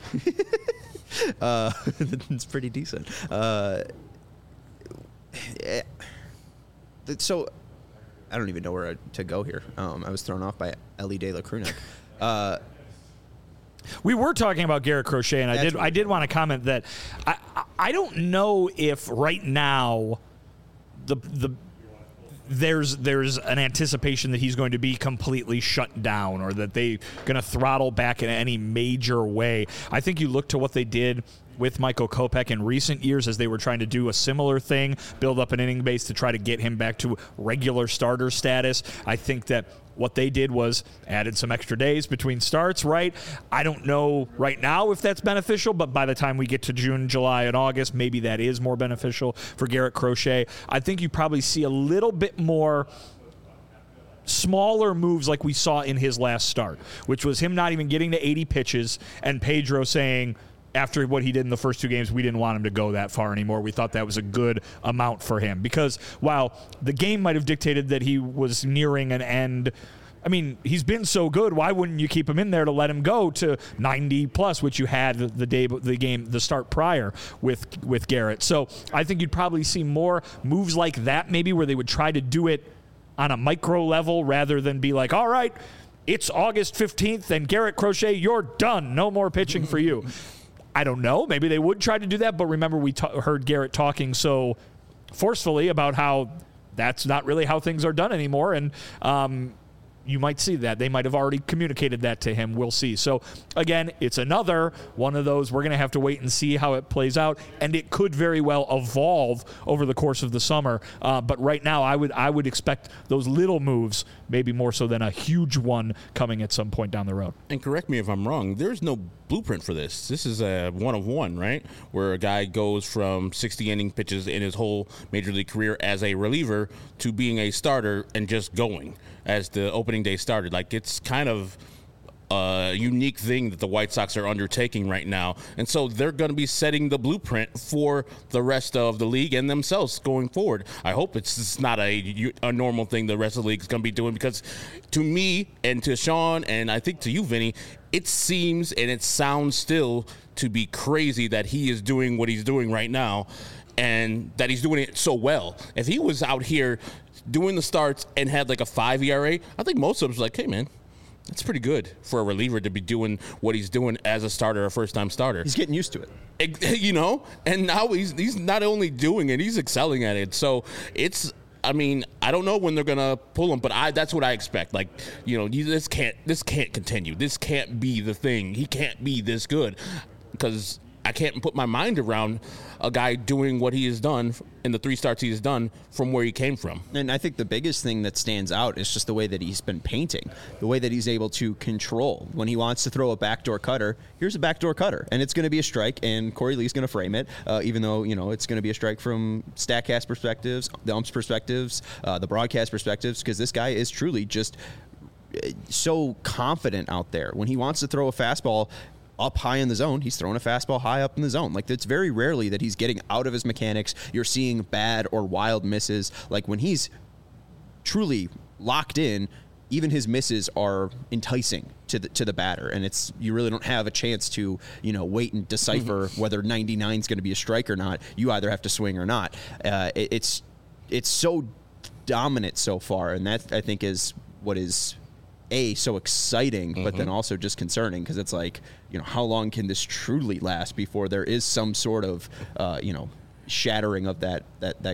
Speaker 1: It's pretty decent. So I don't even know where to go here. I was thrown off by Ellie De La Crewneck.
Speaker 3: We were talking about Garrett Crochet, and I did want to comment that I don't know if right now there's an anticipation that he's going to be completely shut down or that they're going to throttle back in any major way. I think you look to what they did with Michael Kopech in recent years as they were trying to do a similar thing, build up an inning base to try to get him back to regular starter status. I think that what they did was added some extra days between starts, right? I don't know right now if that's beneficial, but by the time we get to June, July, and August, maybe that is more beneficial for Garrett Crochet. I think you probably see a little bit more smaller moves like we saw in his last start, which was him not even getting to 80 pitches and Pedro saying, after what he did in the first 2 games, we didn't want him to go that far anymore. We thought that was a good amount for him because while the game might have dictated that he was nearing an end, I mean, he's been so good. Why wouldn't you keep him in there to let him go to 90 plus, which you had the start prior with Garrett? So I think you'd probably see more moves like that, maybe where they would try to do it on a micro level rather than be like, all right, it's August 15th and Garrett Crochet, you're done. No more pitching for you. I don't know. Maybe they would try to do that, but remember we heard Garrett talking so forcefully about how that's not really how things are done anymore, and you might see that. They might have already communicated that to him. We'll see. So, again, it's another one of those. We're going to have to wait and see how it plays out, and it could very well evolve over the course of the summer. But right now, I would expect those little moves, maybe more so than a huge one coming at some point down the road.
Speaker 4: And correct me if I'm wrong, there's no blueprint for this. This is a one-of-one, right? Where a guy goes from 60 inning pitches in his whole major league career as a reliever to being a starter and just going as the opening day started. Like, it's kind of a unique thing that the White Sox are undertaking right now. And so they're going to be setting the blueprint for the rest of the league and themselves going forward. I hope it's not a normal thing the rest of the league is going to be doing, because to me and to Sean and I think to you, Vinny, it seems and it sounds still to be crazy that he is doing what he's doing right now and that he's doing it so well. If he was out here doing the starts and had like a 5 ERA, I think most of us was like, hey, man, that's pretty good for a reliever to be doing what he's doing as a starter, a first-time starter.
Speaker 1: He's getting used to it.
Speaker 4: You know? And now he's not only doing it, he's excelling at it. So it's, I mean, I don't know when they're going to pull him, but that's what I expect. Like, you know, this can't continue. This can't be the thing. He can't be this good, because I can't put my mind around a guy doing what he has done in the 3 starts he has done from where he came from.
Speaker 1: And I think the biggest thing that stands out is just the way that he's been painting, the way that he's able to control. When he wants to throw a backdoor cutter, here's a backdoor cutter, and it's going to be a strike, and Corey Lee's going to frame it, even though, you know, it's going to be a strike from StatCast perspectives, the umps perspectives, the broadcast perspectives, because this guy is truly just so confident out there. When he wants to throw a fastball up high in the zone, he's throwing a fastball high up in the zone. Like, it's very rarely that he's getting out of his mechanics. You're seeing bad or wild misses. Like, when he's truly locked in, even his misses are enticing to the batter, and you really don't have a chance to wait and decipher whether 99 is going to be a strike or not. You either have to swing or not. It's so dominant so far, and that I think is what is so exciting, but then also just concerning, because it's like, how long can this truly last before there is some sort of shattering of that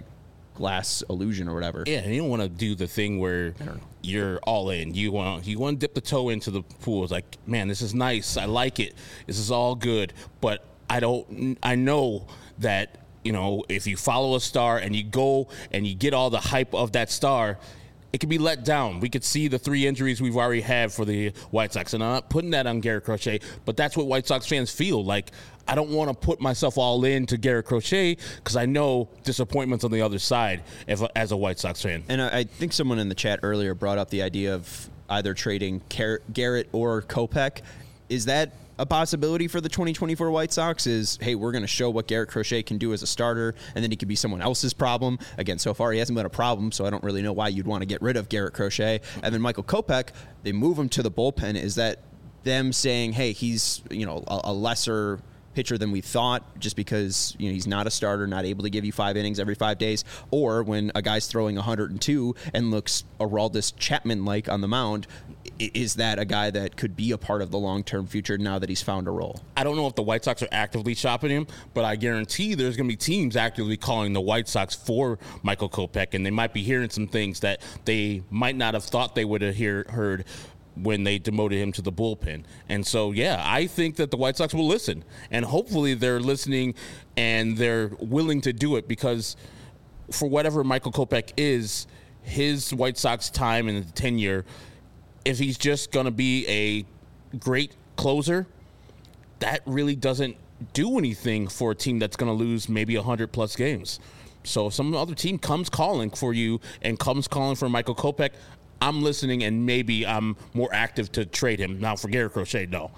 Speaker 1: glass illusion or whatever.
Speaker 4: Yeah, and you don't want to do the thing where you're all in. You want to dip the toe into the pool. It's like, man, this is nice. I like it. This is all good. But I know that, if you follow a star and you go and you get all the hype of that star, it can be let down. We could see the 3 injuries we've already had for the White Sox. And I'm not putting that on Garrett Crochet, but that's what White Sox fans feel. Like, I don't want to put myself all in to Garrett Crochet because I know disappointment's on the other side as a White Sox fan.
Speaker 1: And I think someone in the chat earlier brought up the idea of either trading Garrett or Kopech. Is that a possibility for the 2024 White Sox? Is, hey, we're going to show what Garrett Crochet can do as a starter, and then he could be someone else's problem. Again, so far he hasn't been a problem, so I don't really know why you'd want to get rid of Garrett Crochet. And then Michael Kopech, they move him to the bullpen. Is that them saying, hey, he's a lesser pitcher than we thought, just because he's not a starter, not able to give you 5 innings every 5 days? Or when a guy's throwing 102 and looks Aroldis Chapman-like on the mound, is that a guy that could be a part of the long-term future now that he's found a role?
Speaker 4: I don't know if the White Sox are actively shopping him, but I guarantee there's going to be teams actively calling the White Sox for Michael Kopech, and they might be hearing some things that they might not have thought they would have heard when they demoted him to the bullpen. And so, yeah, I think that the White Sox will listen, and hopefully they're listening and they're willing to do it, because for whatever Michael Kopech is, his White Sox time in the tenure, if he's just going to be a great closer, that really doesn't do anything for a team that's going to lose maybe 100-plus games. So if some other team comes calling for you and comes calling for Michael Kopech, I'm listening, and maybe I'm more active to trade him. Now, for Garrett Crochet, no.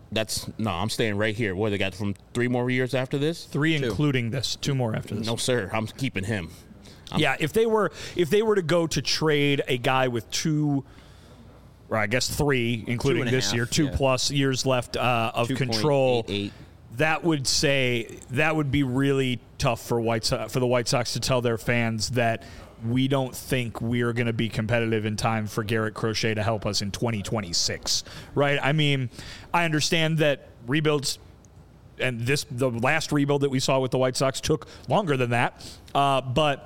Speaker 4: I'm staying right here. What, they got from 3 more years after this?
Speaker 3: 3 including this. 2 more after this.
Speaker 4: No, sir. I'm keeping him.
Speaker 3: If they were to go to trade a guy with 2, or I guess 3, including this year, 2+ years left of control, that would be really tough for the White Sox to tell their fans that we don't think we're going to be competitive in time for Garrett Crochet to help us in 2026, right? I mean, I understand that rebuilds, and the last rebuild that we saw with the White Sox took longer than that, but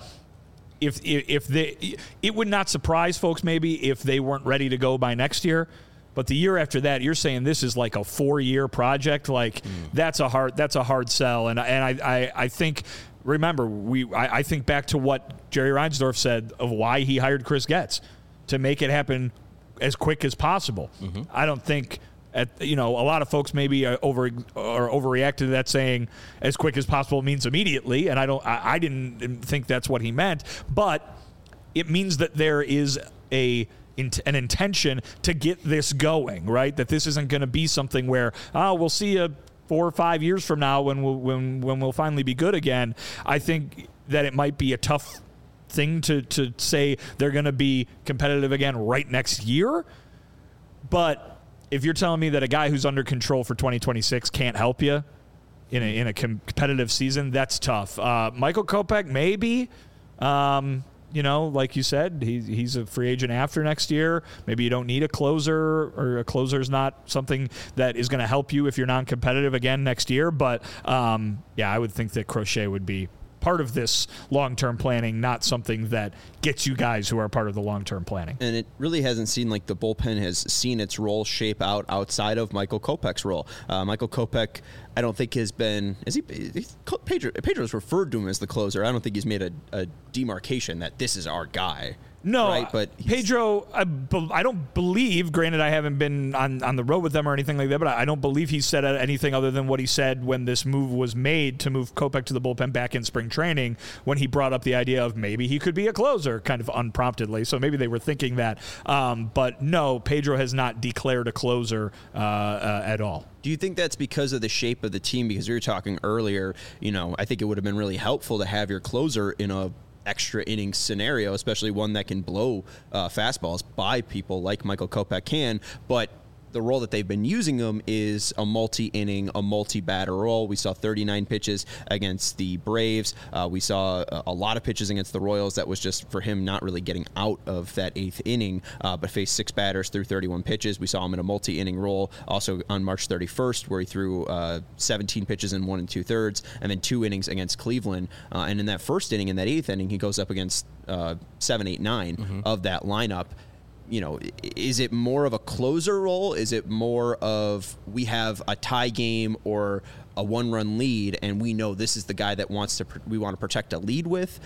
Speaker 3: it would not surprise folks maybe if they weren't ready to go by next year. But the year after that, you're saying this is like a 4-year project. Like that's a hard sell. And I think, remember, I think back to what Jerry Reinsdorf said of why he hired Chris Getz, to make it happen as quick as possible. Mm-hmm. I don't think a lot of folks maybe overreact to that, saying as quick as possible means immediately, and I didn't think that's what he meant, but it means that there is an intention to get this going, right? That this isn't going to be something where we'll see you 4 or 5 years from now when we'll finally be good again. I think that it might be a tough thing to say they're going to be competitive again right next year, but if you're telling me that a guy who's under control for 2026 can't help you in a competitive season, that's tough. Michael Kopech, maybe. Like you said, he's a free agent after next year. Maybe you don't need a closer, or a closer is not something that is going to help you if you're non-competitive again next year. But, I would think that Crochet would be part of this long-term planning, not something that gets you guys who are part of the long-term planning.
Speaker 1: And it really hasn't seemed like the bullpen has seen its role shape out outside of Michael Kopech's role. Michael Kopech, I don't think has been, Pedro's referred to him as the closer. I don't think he's made a demarcation that this is our guy.
Speaker 3: No,
Speaker 1: right? But
Speaker 3: Pedro, I don't believe, granted I haven't been on the road with them or anything like that, but I don't believe he said anything other than what he said when this move was made to move Kopech to the bullpen back in spring training, when he brought up the idea of maybe he could be a closer, kind of unpromptedly. So maybe they were thinking that. But no, Pedro has not declared a closer at all.
Speaker 1: Do you think that's because of the shape of the team? Because we were talking earlier, I think it would have been really helpful to have your closer in a extra innings scenario, especially one that can blow fastballs by people like Michael Kopech can, but the role that they've been using him is a multi-inning, a multi-batter role. We saw 39 pitches against the Braves. We saw a lot of pitches against the Royals. That was just for him not really getting out of that 8th inning, but faced 6 batters through 31 pitches. We saw him in a multi-inning role also on March 31st, where he threw 17 pitches in 1 2/3, and then 2 innings against Cleveland. And in that first inning, in that 8th inning, he goes up against 7, 8, 9 of that lineup. You know, is it more of a closer role? Is it more of we have a tie game or a 1-run lead, and we know this is the guy that we want to protect a lead with?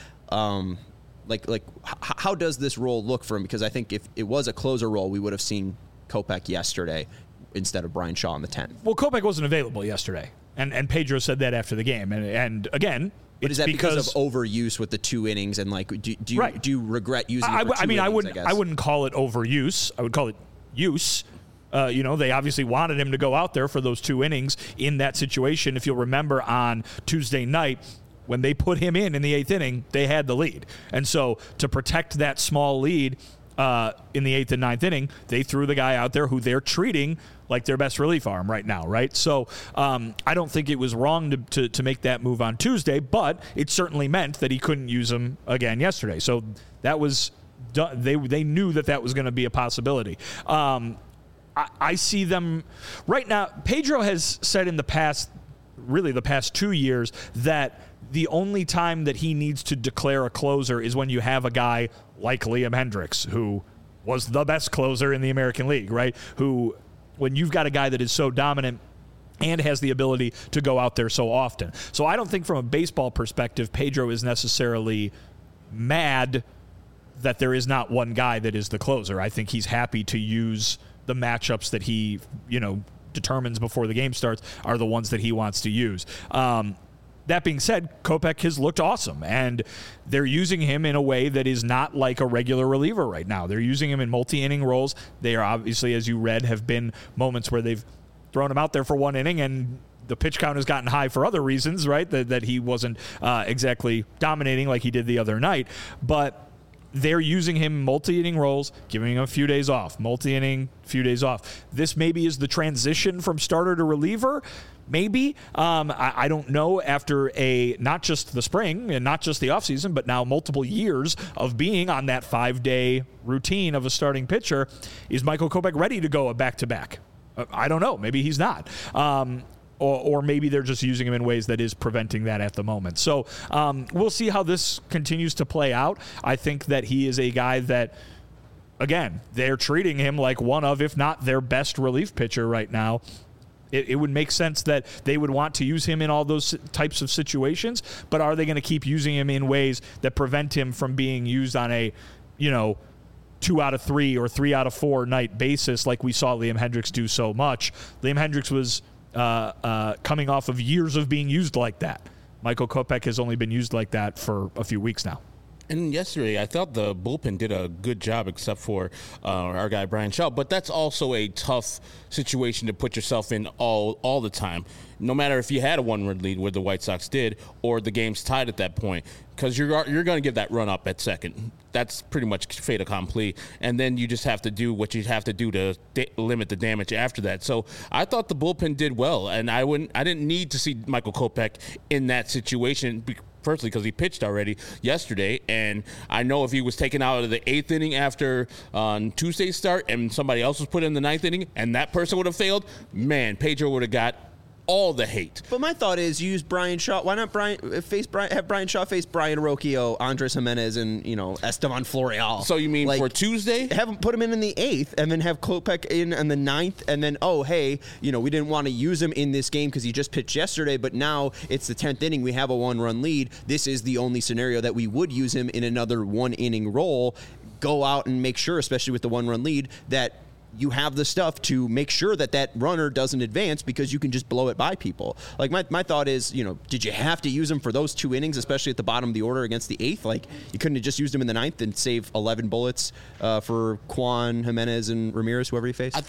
Speaker 1: How does this role look for him? Because I think if it was a closer role, we would have seen Kopech yesterday instead of Bryan Shaw in the 10th.
Speaker 3: Well, Kopech wasn't available yesterday, and Pedro said that after the game, and again.
Speaker 1: But is that because of overuse with the 2 innings and do you regret using it for 2 innings,
Speaker 3: I wouldn't call it overuse. I would call it use. They obviously wanted him to go out there for those 2 innings in that situation. If you'll remember on Tuesday night, when they put him in the 8th inning, they had the lead. And so to protect that small lead in the 8th and 9th inning, they threw the guy out there who they're treating like their best relief arm right now, right? So I don't think it was wrong to make that move on Tuesday, but it certainly meant that he couldn't use him again yesterday. So that was they knew that was going to be a possibility. I see them right now. Pedro has said in the past 2 years, that the only time that he needs to declare a closer is when you have a guy like Liam Hendriks, who was the best closer in the American League, right? When you've got a guy that is so dominant and has the ability to go out there so often. So I don't think from a baseball perspective, Pedro is necessarily mad that there is not one guy that is the closer. I think he's happy to use the matchups that he, determines before the game starts are the ones that he wants to use. That being said, Kopech has looked awesome, and they're using him in a way that is not like a regular reliever right now. They're using him in multi-inning roles. They are obviously, as you read, have been moments where they've thrown him out there for 1 inning, and the pitch count has gotten high for other reasons, right? That he wasn't exactly dominating like he did the other night. But they're using him multi-inning roles, giving him a few days off. Multi-inning, few days off. This maybe is the transition from starter to reliever. Maybe. I don't know, after not just the spring and not just the offseason, but now multiple years of being on that 5-day routine of a starting pitcher, is Michael Kopech ready to go a back-to-back? I don't know. Maybe he's not. Or maybe they're just using him in ways that is preventing that at the moment. So we'll see how this continues to play out. I think that he is a guy that, again, they're treating him like one of, if not their best relief pitcher right now. It would make sense that they would want to use him in all those types of situations, but are they going to keep using him in ways that prevent him from being used on a, 2 out of 3 or 3 out of 4 night basis like we saw Liam Hendriks do so much? Liam Hendriks was coming off of years of being used like that. Michael Kopech has only been used like that for a few weeks now.
Speaker 4: And yesterday, I thought the bullpen did a good job, except for our guy Bryan Shaw. But that's also a tough situation to put yourself in all the time, no matter if you had a 1-run lead, where the White Sox did, or the game's tied at that point, because you're going to give that run up at second. That's pretty much fait accompli. And then you just have to do what you have to do to limit the damage after that. So I thought the bullpen did well, and I didn't need to see Michael Kopech in that situation. Firstly, because he pitched already yesterday, and I know if he was taken out of the 8th inning after on Tuesday's start and somebody else was put in the 9th inning and that person would have failed, man, Pedro would have got all the hate.
Speaker 1: But my thought is use Bryan Shaw. Why not have Bryan Shaw face Brian Rocchio, Andres Jimenez, and Esteban Florial?
Speaker 4: So you mean for Tuesday?
Speaker 1: Have him put him in the 8th, and then have Kopech in the 9th, and then we didn't want to use him in this game because he just pitched yesterday, but now it's the 10th inning. We have a 1-run lead. This is the only scenario that we would use him in another 1-inning role. Go out and make sure, especially with the 1-run lead, that you have the stuff to make sure that runner doesn't advance, because you can just blow it by people. Like my thought is, did you have to use him for those 2 innings, especially at the bottom of the order against the 8th? Like, you couldn't have just used him in the 9th and save 11 bullets for Kwan, Jimenez, and Ramirez, whoever you faced?
Speaker 4: I think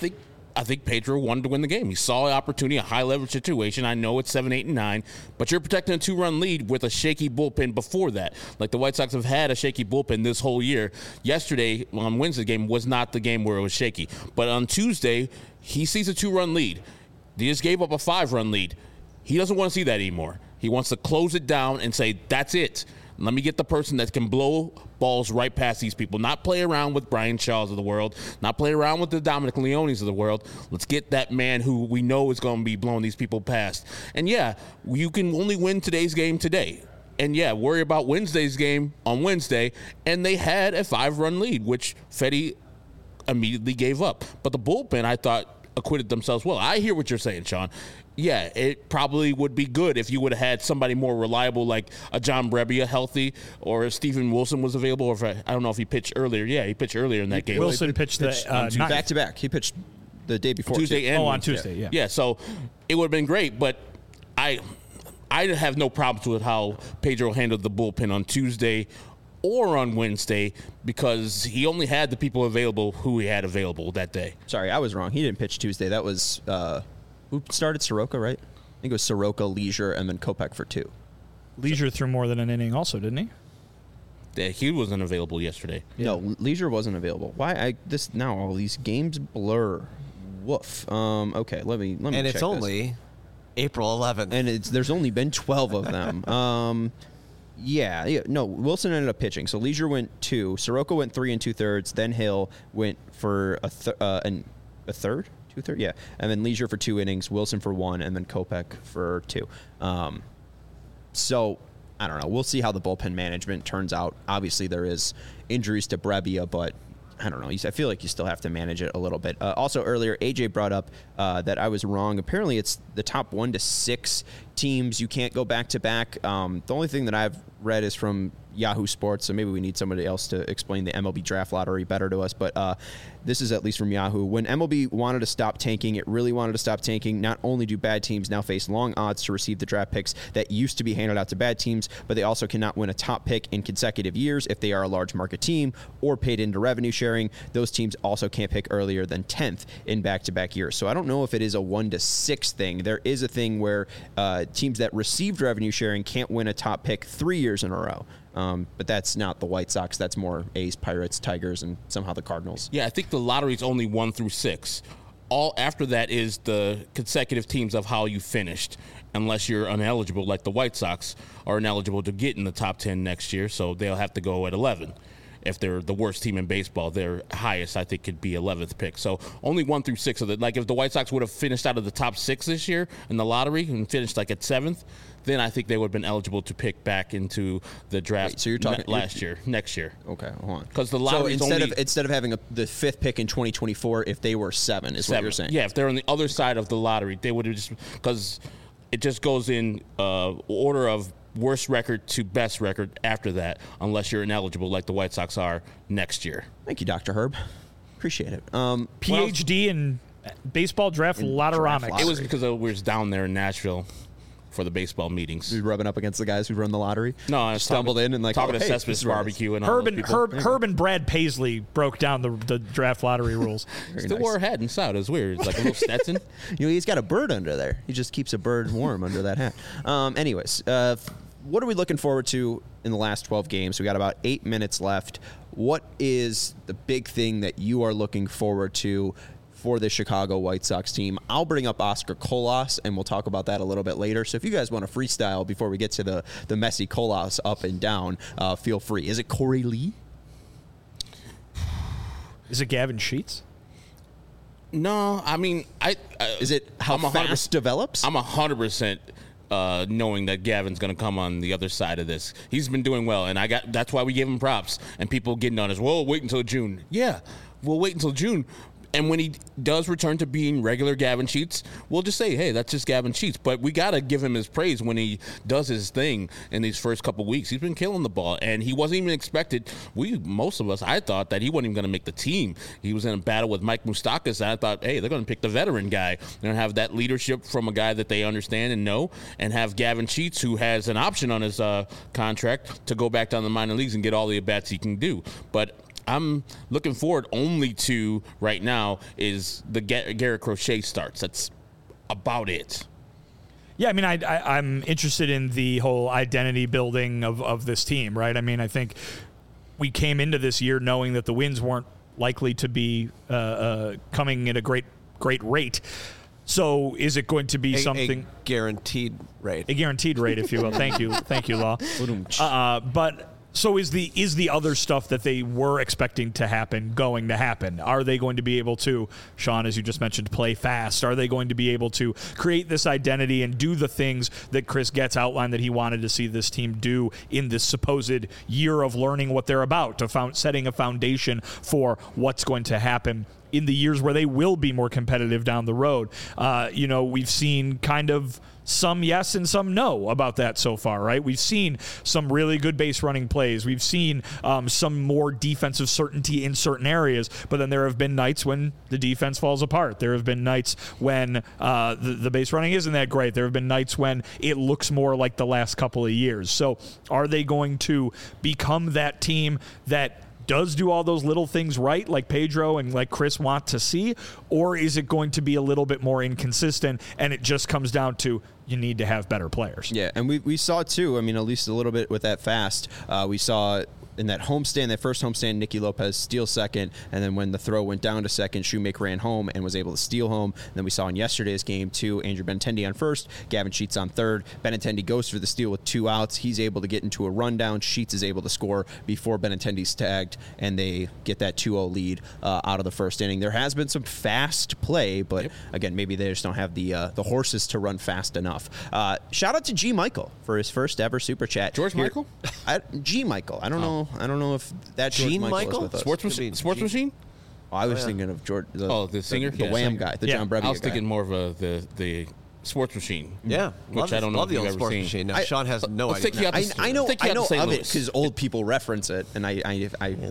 Speaker 4: I think Pedro wanted to win the game. He saw an opportunity, a high-leverage situation. I know it's 7, 8, and 9, but you're protecting a 2-run lead with a shaky bullpen before that. Like the White Sox have had a shaky bullpen this whole year. Yesterday, on Wednesday's game, was not the game where it was shaky. But on Tuesday, he sees a 2-run lead. They just gave up a 5-run lead. He doesn't want to see that anymore. He wants to close it down and say, that's it. Let me get the person that can blow balls right past these people, not play around with Brian Shaws of the world, not play around with the Dominic Leones of the world. Let's get that man who we know is going to be blowing these people past. And, yeah, you can only win today's game today. And, yeah, worry about Wednesday's game on Wednesday. And they had a 5-run lead, which Fedde immediately gave up. But the bullpen, I thought, acquitted themselves well. I hear what you're saying, Sean. Yeah, it probably would be good if you would have had somebody more reliable like a John Brebbia healthy, or if Stephen Wilson was available, or if I don't know if he pitched earlier. Yeah, he pitched earlier in that game.
Speaker 3: Wilson pitched
Speaker 1: back-to-back. He pitched the day before.
Speaker 4: Tuesday and
Speaker 3: on
Speaker 4: Wednesday.
Speaker 3: Tuesday, yeah.
Speaker 4: Yeah, so it would have been great, but I have no problems with how Pedro handled the bullpen on Tuesday or on Wednesday because he only had the people available who he had available that day.
Speaker 1: Sorry, I was wrong. He didn't pitch Tuesday. That was who started Soroka, right? I think it was Soroka, Leisure, and then Kopech for 2.
Speaker 3: Leisure threw more than an inning also, didn't he?
Speaker 4: Yeah, he wasn't available yesterday.
Speaker 1: No, Leisure wasn't available. Why? Now all these games blur. Woof. Okay, let me.
Speaker 2: And it's
Speaker 1: check
Speaker 2: only
Speaker 1: this.
Speaker 2: April 11th.
Speaker 1: And there's only been 12 of them. Yeah. No, Wilson ended up pitching. So Leisure went 2. Soroka went 3 2/3. Then Hill went for a third. 2/3, yeah, and then Leisure for 2 innings, Wilson for 1, and then Kopech for 2. So I don't know. We'll see how the bullpen management turns out. Obviously, there is injuries to Brebbia, but I don't know. I feel like you still have to manage it a little bit. Also, earlier, AJ brought up that I was wrong. Apparently, it's the top 1 to 6 teams. You can't go back-to-back. The only thing that I've read is from Yahoo Sports, so maybe we need somebody else to explain the MLB draft lottery better to us. But this is at least from Yahoo. When MLB wanted to stop tanking, it really wanted to stop tanking. Not only do bad teams now face long odds to receive the draft picks that used to be handed out to bad teams, but they also cannot win a top pick in consecutive years if they are a large market team or paid into revenue sharing. Those teams also can't pick earlier than 10th in back-to-back years. So I don't know if it is a 1 to 6 thing. There is a thing where teams that received revenue sharing can't win a top pick 3 years in a row. But that's not the White Sox. That's more A's, Pirates, Tigers, and somehow the Cardinals.
Speaker 4: Yeah, I think the lottery's only 1 through 6. All after that is the consecutive teams of how you finished, unless you're ineligible, like the White Sox are ineligible to get in the top 10 next year, so they'll have to go at 11. If they're the worst team in baseball, their highest, I think, could be 11th pick. So only 1 through 6 of it. Like if the White Sox would have finished out of the top 6 this year in the lottery and finished like at 7th, then I think they would have been eligible to pick back into the draft.
Speaker 1: Wait, so you're talking
Speaker 4: next year.
Speaker 1: Okay, hold on.
Speaker 4: Because the lottery
Speaker 1: instead of having the 5th pick in 2024, if they were 7, is
Speaker 4: 7.
Speaker 1: what you're saying?
Speaker 4: Yeah, if they're on the other side of the lottery, they would have just because it just goes in order of worst record to best record after that, unless you're ineligible like the White Sox are next year.
Speaker 1: Thank you, Dr. Herb. Appreciate it.
Speaker 3: PhD in baseball draft lotteromics.
Speaker 4: It was because we was down there in Nashville for the baseball meetings.
Speaker 1: You rubbing up against the guys who run the lottery?
Speaker 4: No, I
Speaker 1: stumbled in and
Speaker 4: talking to
Speaker 1: hey,
Speaker 4: Cespedes barbecue and
Speaker 3: Herb and Brad Paisley broke down the draft lottery rules.
Speaker 4: Still wore a hat inside. It was weird. It's like a little Stetson.
Speaker 1: He's got a bird under there. He just keeps a bird warm under that hat. Anyways, what are we looking forward to in the last 12 games? We got about 8 minutes left. What is the big thing that you are looking forward to for the Chicago White Sox team? I'll bring up Oscar Colas, and we'll talk about that a little bit later. So if you guys want to freestyle before we get to the messy Colas up and down, feel free. Is it Corey Lee?
Speaker 3: Is it Gavin Sheets?
Speaker 4: No, I mean,
Speaker 1: is it how fast develops?
Speaker 4: I'm 100% knowing that Gavin's going to come on the other side of this. He's been doing well, and that's why we gave him props. And people getting on us, well, wait until June. Yeah, we'll wait until June. And when he does return to being regular Gavin Sheets, we'll just say, hey, that's just Gavin Sheets. But we got to give him his praise when he does his thing in these first couple weeks. He's been killing the ball, and he wasn't even expected. Most of us, I thought that he wasn't even going to make the team. He was in a battle with Mike Moustakas, and I thought, hey, they're going to pick the veteran guy. They're going to have that leadership from a guy that they understand and know, and have Gavin Sheets, who has an option on his contract to go back down the minor leagues and get all the at-bats he can do. But I'm looking forward only to right now is the Garrett Crochet starts. That's about it.
Speaker 3: Yeah, I mean, I'm interested in the whole identity building of this team, right? I mean, I think we came into this year knowing that the wins weren't likely to be coming at a great rate. So is it going to be something...
Speaker 2: A guaranteed rate.
Speaker 3: A guaranteed rate, if you will. Thank you, Law. But... So is the other stuff that they were expecting to happen going to happen? Are they going to be able to, Sean, as you just mentioned, play fast? Are they going to be able to create this identity and do the things that Chris Getz outlined that he wanted to see this team do in this supposed year of learning what they're about, to setting a foundation for what's going to happen in the years where they will be more competitive down the road? We've seen kind of some yes and some no about that so far, right? We've seen some really good base running plays. We've seen some more defensive certainty in certain areas, but then there have been nights when the defense falls apart. There have been nights when the base running isn't that great. There have been nights when it looks more like the last couple of years. So are they going to become that team that does do all those little things right, like Pedro and like Chris want to see, or is it going to be a little bit more inconsistent and it just comes down to you need to have better players?
Speaker 1: Yeah, and we saw too, I mean, at least a little bit with that fast. We saw in that homestand, that first homestand, Nicky Lopez steal second, and then when the throw went down to second, Shoemaker ran home and was able to steal home. And then we saw in yesterday's game, too, Andrew Benintendi on first, Gavin Sheets on third. Benintendi goes for the steal with 2 outs. He's able to get into a rundown. Sheets is able to score before Benintendi's tagged, and they get that 2-0 lead out of the first inning. There has been some fast play, but again, maybe they just don't have the horses to run fast enough. Shout out to G. Michael for his first ever Super Chat.
Speaker 4: Michael?
Speaker 1: G. Michael. I don't know. I don't know if that
Speaker 2: Gene
Speaker 1: George
Speaker 2: Michael
Speaker 1: is with us.
Speaker 4: Sports Machine?
Speaker 1: Oh, I was thinking of George.
Speaker 4: The singer?
Speaker 1: The Wham guy, the John Brebbia guy.
Speaker 4: I was thinking more of the Sports Machine.
Speaker 2: Yeah,
Speaker 4: which I don't know
Speaker 2: love
Speaker 4: if
Speaker 2: the
Speaker 4: you've
Speaker 2: old
Speaker 4: ever
Speaker 2: Sports
Speaker 4: seen.
Speaker 2: Machine. Now, Sean has no idea.
Speaker 1: I know
Speaker 4: St.
Speaker 1: of it
Speaker 4: Louis.
Speaker 1: because old people reference it, and I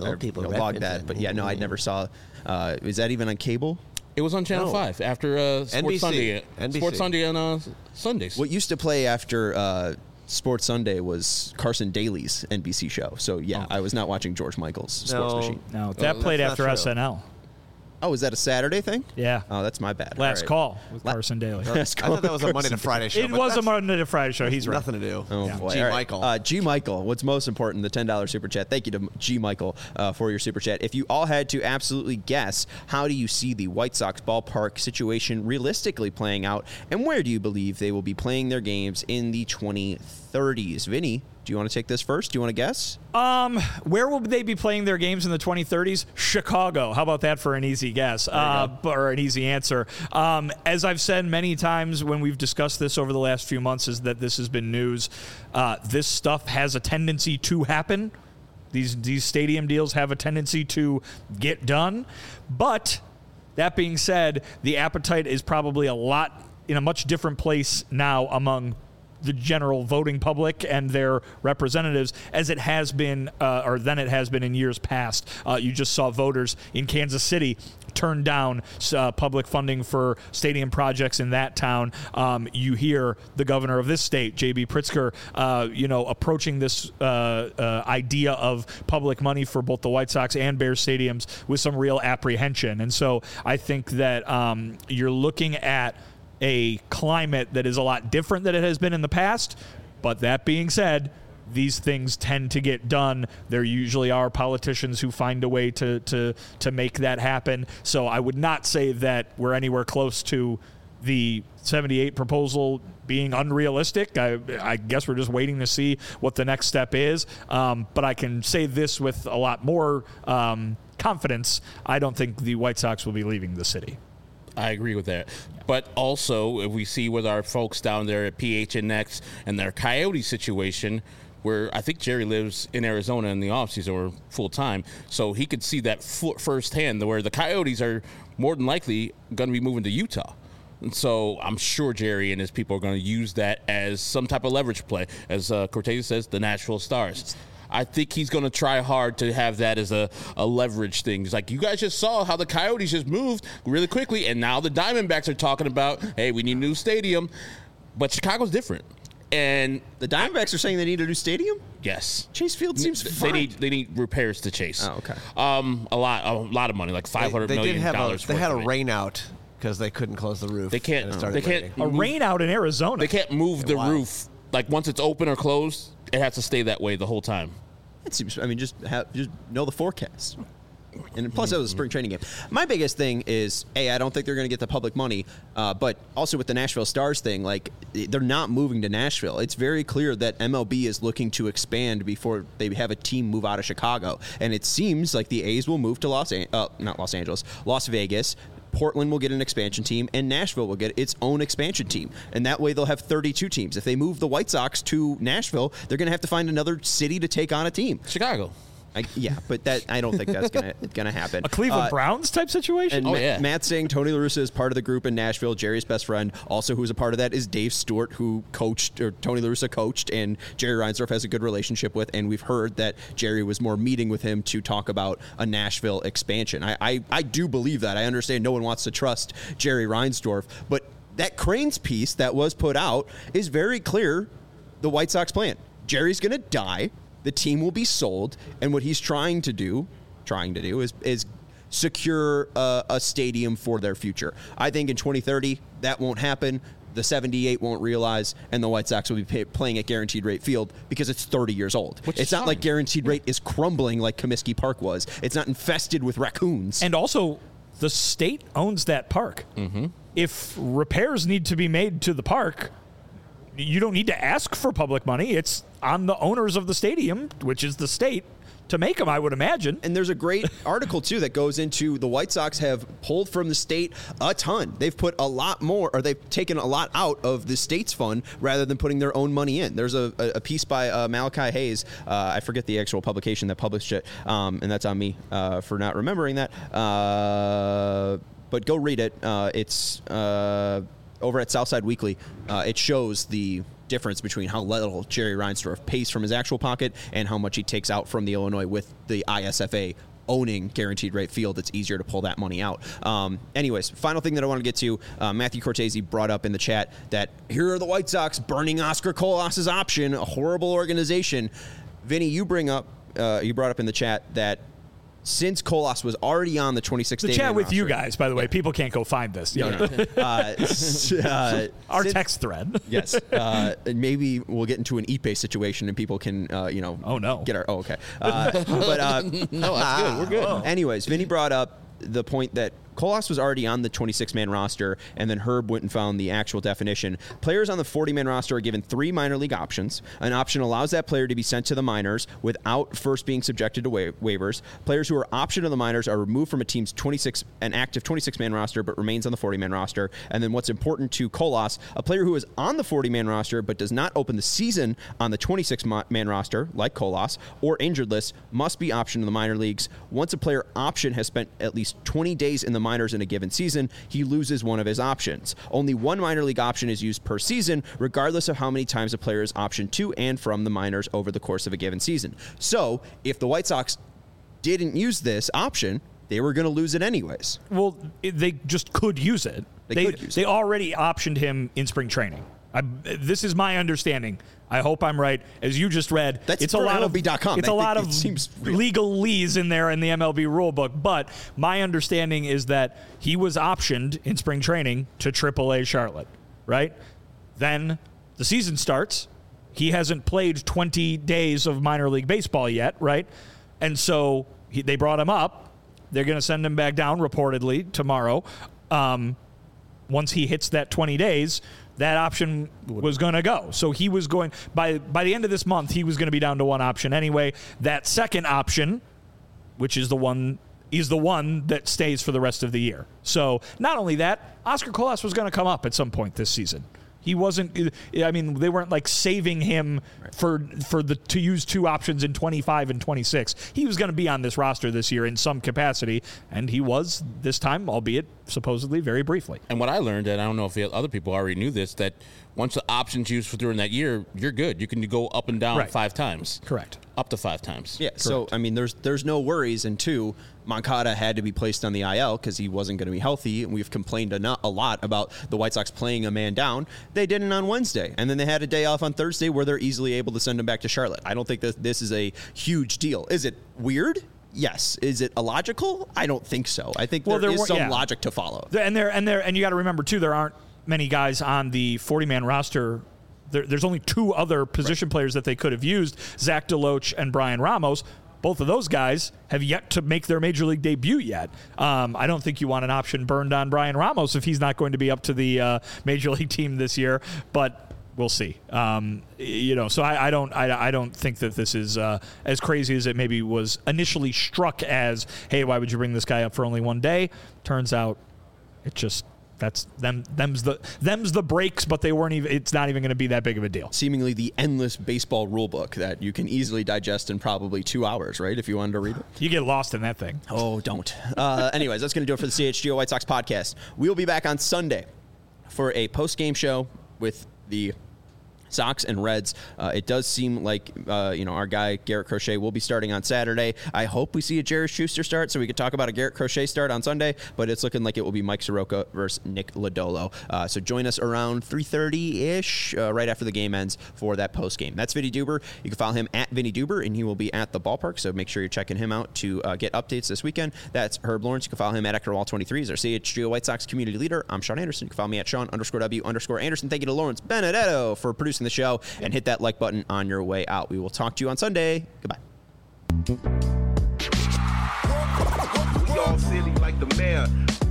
Speaker 1: log that. But yeah, no, I never saw. Is that even on cable?
Speaker 4: It was on Channel 5 after Sports Sunday.
Speaker 2: NBC.
Speaker 4: Sports Sunday on Sundays.
Speaker 1: What used to play after Sports Sunday was Carson Daly's NBC show. So yeah, I was not watching George Michael's Sports Machine.
Speaker 3: No, that played after SNL.
Speaker 1: Oh, is that a Saturday thing?
Speaker 3: Yeah.
Speaker 1: Oh, that's my bad.
Speaker 3: Last Call with Carson Daly.
Speaker 2: I thought that was a Monday to Friday show.
Speaker 3: It was a Monday to Friday show. He's right.
Speaker 2: Nothing to do.
Speaker 1: Oh, boy.
Speaker 2: G.
Speaker 1: All right.
Speaker 2: Michael.
Speaker 1: G. Michael, what's most important, the $10 Super Chat. Thank you to G. Michael for your Super Chat. If you all had to absolutely guess, how do you see the White Sox ballpark situation realistically playing out, and where do you believe they will be playing their games in the 2030s? Vinny, do you want to take this first? Do you want to guess?
Speaker 3: Where will they be playing their games in the 2030s? Chicago. How about that for an easy guess or an easy answer? As I've said many times when we've discussed this over the last few months, is that this has been news. This stuff has a tendency to happen. These stadium deals have a tendency to get done. But that being said, the appetite is probably in a much different place now among the general voting public and their representatives as it has been, or than it has been in years past. You just saw voters in Kansas City turn down public funding for stadium projects in that town. You hear the governor of this state, J.B. Pritzker, approaching this idea of public money for both the White Sox and Bears stadiums with some real apprehension. And so I think that you're looking at a climate that is a lot different than it has been in the past. But that being said, these things tend to get done. There usually are politicians who find a way to make that happen. So I would not say that we're anywhere close to the 78 proposal being unrealistic. I guess we're just waiting to see what the next step is. But I can say this with a lot more confidence. I don't think the White Sox will be leaving the city.
Speaker 4: I agree with that. But also, if we see with our folks down there at PHNX and their Coyote situation, where I think Jerry lives in Arizona in the offseason or full-time, so he could see that firsthand, where the Coyotes are more than likely going to be moving to Utah. And so I'm sure Jerry and his people are going to use that as some type of leverage play. As Cortez says, the natural stars. I think he's going to try hard to have that as a leverage thing. It's like, you guys just saw how the Coyotes just moved really quickly, and now the Diamondbacks are talking about, hey, we need a new stadium. But Chicago's different. And
Speaker 1: The Diamondbacks are saying they need a new stadium?
Speaker 4: yes,
Speaker 1: Chase Field seems fine.
Speaker 4: they need repairs to Chase.
Speaker 1: Oh, okay.
Speaker 4: A lot of money, like $500
Speaker 2: They
Speaker 4: million
Speaker 2: did have
Speaker 4: dollars.
Speaker 2: they had a
Speaker 4: worth of it.
Speaker 2: rain out because they couldn't close the roof.
Speaker 4: They can't-
Speaker 2: and it started
Speaker 4: they can't-
Speaker 2: raining.
Speaker 3: A rain out in Arizona.
Speaker 4: They can't move the
Speaker 2: Wow.
Speaker 4: roof. Like once it's open or closed, it has to stay that way the whole time.
Speaker 1: It seems. I mean, just know the forecast. And plus, that was a spring training game. My biggest thing is, I don't think they're going to get the public money. But also with the Nashville Stars thing, like they're not moving to Nashville. It's very clear that MLB is looking to expand before they have a team move out of Chicago. And it seems like the A's will move to Las Vegas. Portland will get an expansion team, and Nashville will get its own expansion team. And that way they'll have 32 teams. If they move the White Sox to Nashville, they're going to have to find another city to take on a team.
Speaker 4: Chicago.
Speaker 1: But I don't think that's gonna happen.
Speaker 3: A Cleveland Browns type situation?
Speaker 1: And Matt's saying Tony La Russa is part of the group in Nashville. Jerry's best friend, also who's a part of that, is Dave Stewart, who Tony La Russa coached, and Jerry Reinsdorf has a good relationship with. And we've heard that Jerry was more meeting with him to talk about a Nashville expansion. I do believe that. I understand no one wants to trust Jerry Reinsdorf, but that Cranes piece that was put out is very clear. The White Sox plan. Jerry's going to die. The team will be sold, and what he's trying to do is secure a stadium for their future. I think in 2030 that won't happen. The 78 won't realize, and the White Sox will be playing at Guaranteed Rate Field because it's 30 years old. It's not like Guaranteed Rate is crumbling like Comiskey Park was. It's not infested with raccoons.
Speaker 3: And also, the state owns that park. Mm-hmm. If repairs need to be made to the park, you don't need to ask for public money. It's on the owners of the stadium, which is the state, to make them, I would imagine.
Speaker 1: And there's a great article, too, that goes into the White Sox have pulled from the state a ton. They've put a lot more, or they've taken a lot out of the state's fund rather than putting their own money in. There's a piece by Malachi Hayes. I forget the actual publication that published it, and that's on me for not remembering that. But go read it. It's over at Southside Weekly. It shows the difference between how little Jerry Reinsdorf pays from his actual pocket and how much he takes out from the Illinois with the ISFA owning Guaranteed Rate Field. It's easier to pull that money out. Anyways, final thing that I want to get to, Matthew Cortese brought up in the chat that here are the White Sox burning Oscar Colas's option, a horrible organization. Vinny, you brought up in the chat that since Colas was already on the 26th
Speaker 3: The chat with roster, you guys, by the way, people can't go find this. Our text thread.
Speaker 1: Yes. Maybe we'll get into an Ipe situation and people can,
Speaker 3: Oh, no.
Speaker 1: Get our. Oh, okay.
Speaker 4: No, that's good. We're good.
Speaker 1: Anyways, Vinny brought up the point that Colas was already on the 26-man roster, and then Herb went and found the actual definition. Players on the 40-man roster are given 3 minor league options. An option allows that player to be sent to the minors without first being subjected to waivers. Players who are optioned to the minors are removed from a team's an active 26-man roster but remains on the 40-man roster. And then what's important to Colas, a player who is on the 40-man roster but does not open the season on the 26-man roster, like Colas, or injured list, must be optioned to the minor leagues. Once a player option has spent at least 20 days in the minors in a given season, he loses one of his options. Only one minor league option is used per season, regardless of how many times a player is optioned to and from the minors over the course of a given season. So, if the White Sox didn't use this option, they were going to lose it anyways.
Speaker 3: Well, they just could use it. They already optioned him in spring training. This is my understanding. I hope I'm right. As you just read,
Speaker 1: it's a lot of MLB.com.
Speaker 3: It's a lot of legalese in there in the MLB rule book. But my understanding is that he was optioned in spring training to AAA Charlotte, right? Then the season starts. He hasn't played 20 days of minor league baseball yet, right? And so they brought him up. They're going to send him back down reportedly tomorrow. Once he hits that 20 days, that option was going to go. So he was going, by the end of this month, he was going to be down to one option anyway. That second option, which is the one that stays for the rest of the year. So not only that, Oscar Colas was going to come up at some point this season. He wasn't, I mean, they weren't like saving him to use 2 options in 25 and 26. He was going to be on this roster this year in some capacity, and he was this time, albeit supposedly very briefly.
Speaker 4: And what I learned, and I don't know if other people already knew this, that once the option's used during that year, you're good. You can go up and down 5 times.
Speaker 3: Correct.
Speaker 4: Up to 5 times.
Speaker 1: Yeah, so, I mean, there's no worries. And 2, Moncada had to be placed on the IL because he wasn't going to be healthy. And we've complained a lot about the White Sox playing a man down. They didn't on Wednesday. And then they had a day off on Thursday where they're easily able to send him back to Charlotte. I don't think that this is a huge deal. Is it weird? Yes. Is it illogical? I don't think so. I think there is some logic to follow.
Speaker 3: And you got to remember, too, there aren't many guys on the 40-man roster. There's only 2 other position players that they could have used, Zach DeLoach and Brian Ramos. Both of those guys have yet to make their major league debut yet. I don't think you want an option burned on Brian Ramos if he's not going to be up to the major league team this year, but we'll see. So I don't think that this is as crazy as it maybe was initially struck as, hey, why would you bring this guy up for only one day? Turns out it just... That's them's the breaks, but they weren't even. It's not even going to be that big of a deal.
Speaker 1: Seemingly the endless baseball rule book that you can easily digest in probably 2 hours, right? If you wanted to read it,
Speaker 3: you get lost in that thing.
Speaker 1: Oh, don't. Anyways, that's going to do it for the CHGO White Sox podcast. We'll be back on Sunday for a post-game show with the Sox and Reds. It does seem like our guy Garrett Crochet will be starting on Saturday. I hope we see a Jared Schuster start so we could talk about a Garrett Crochet start on Sunday, but it's looking like it will be Mike Soroka versus Nick Lodolo. So join us around 3:30-ish, right after the game ends for that post game. That's Vinny Duber. You can follow him at Vinny Duber, and he will be at the ballpark, so make sure you're checking him out to get updates this weekend. That's Herb Lawrence. You can follow him at EctorWall23. He's our CHGO White Sox community leader. I'm Sean Anderson. You can follow me at Sean_W_Anderson. Thank you to Lawrence Benedetto for producing the show, and hit that like button on your way out. We will talk to you on Sunday. Goodbye.
Speaker 5: We all silly like the mayor.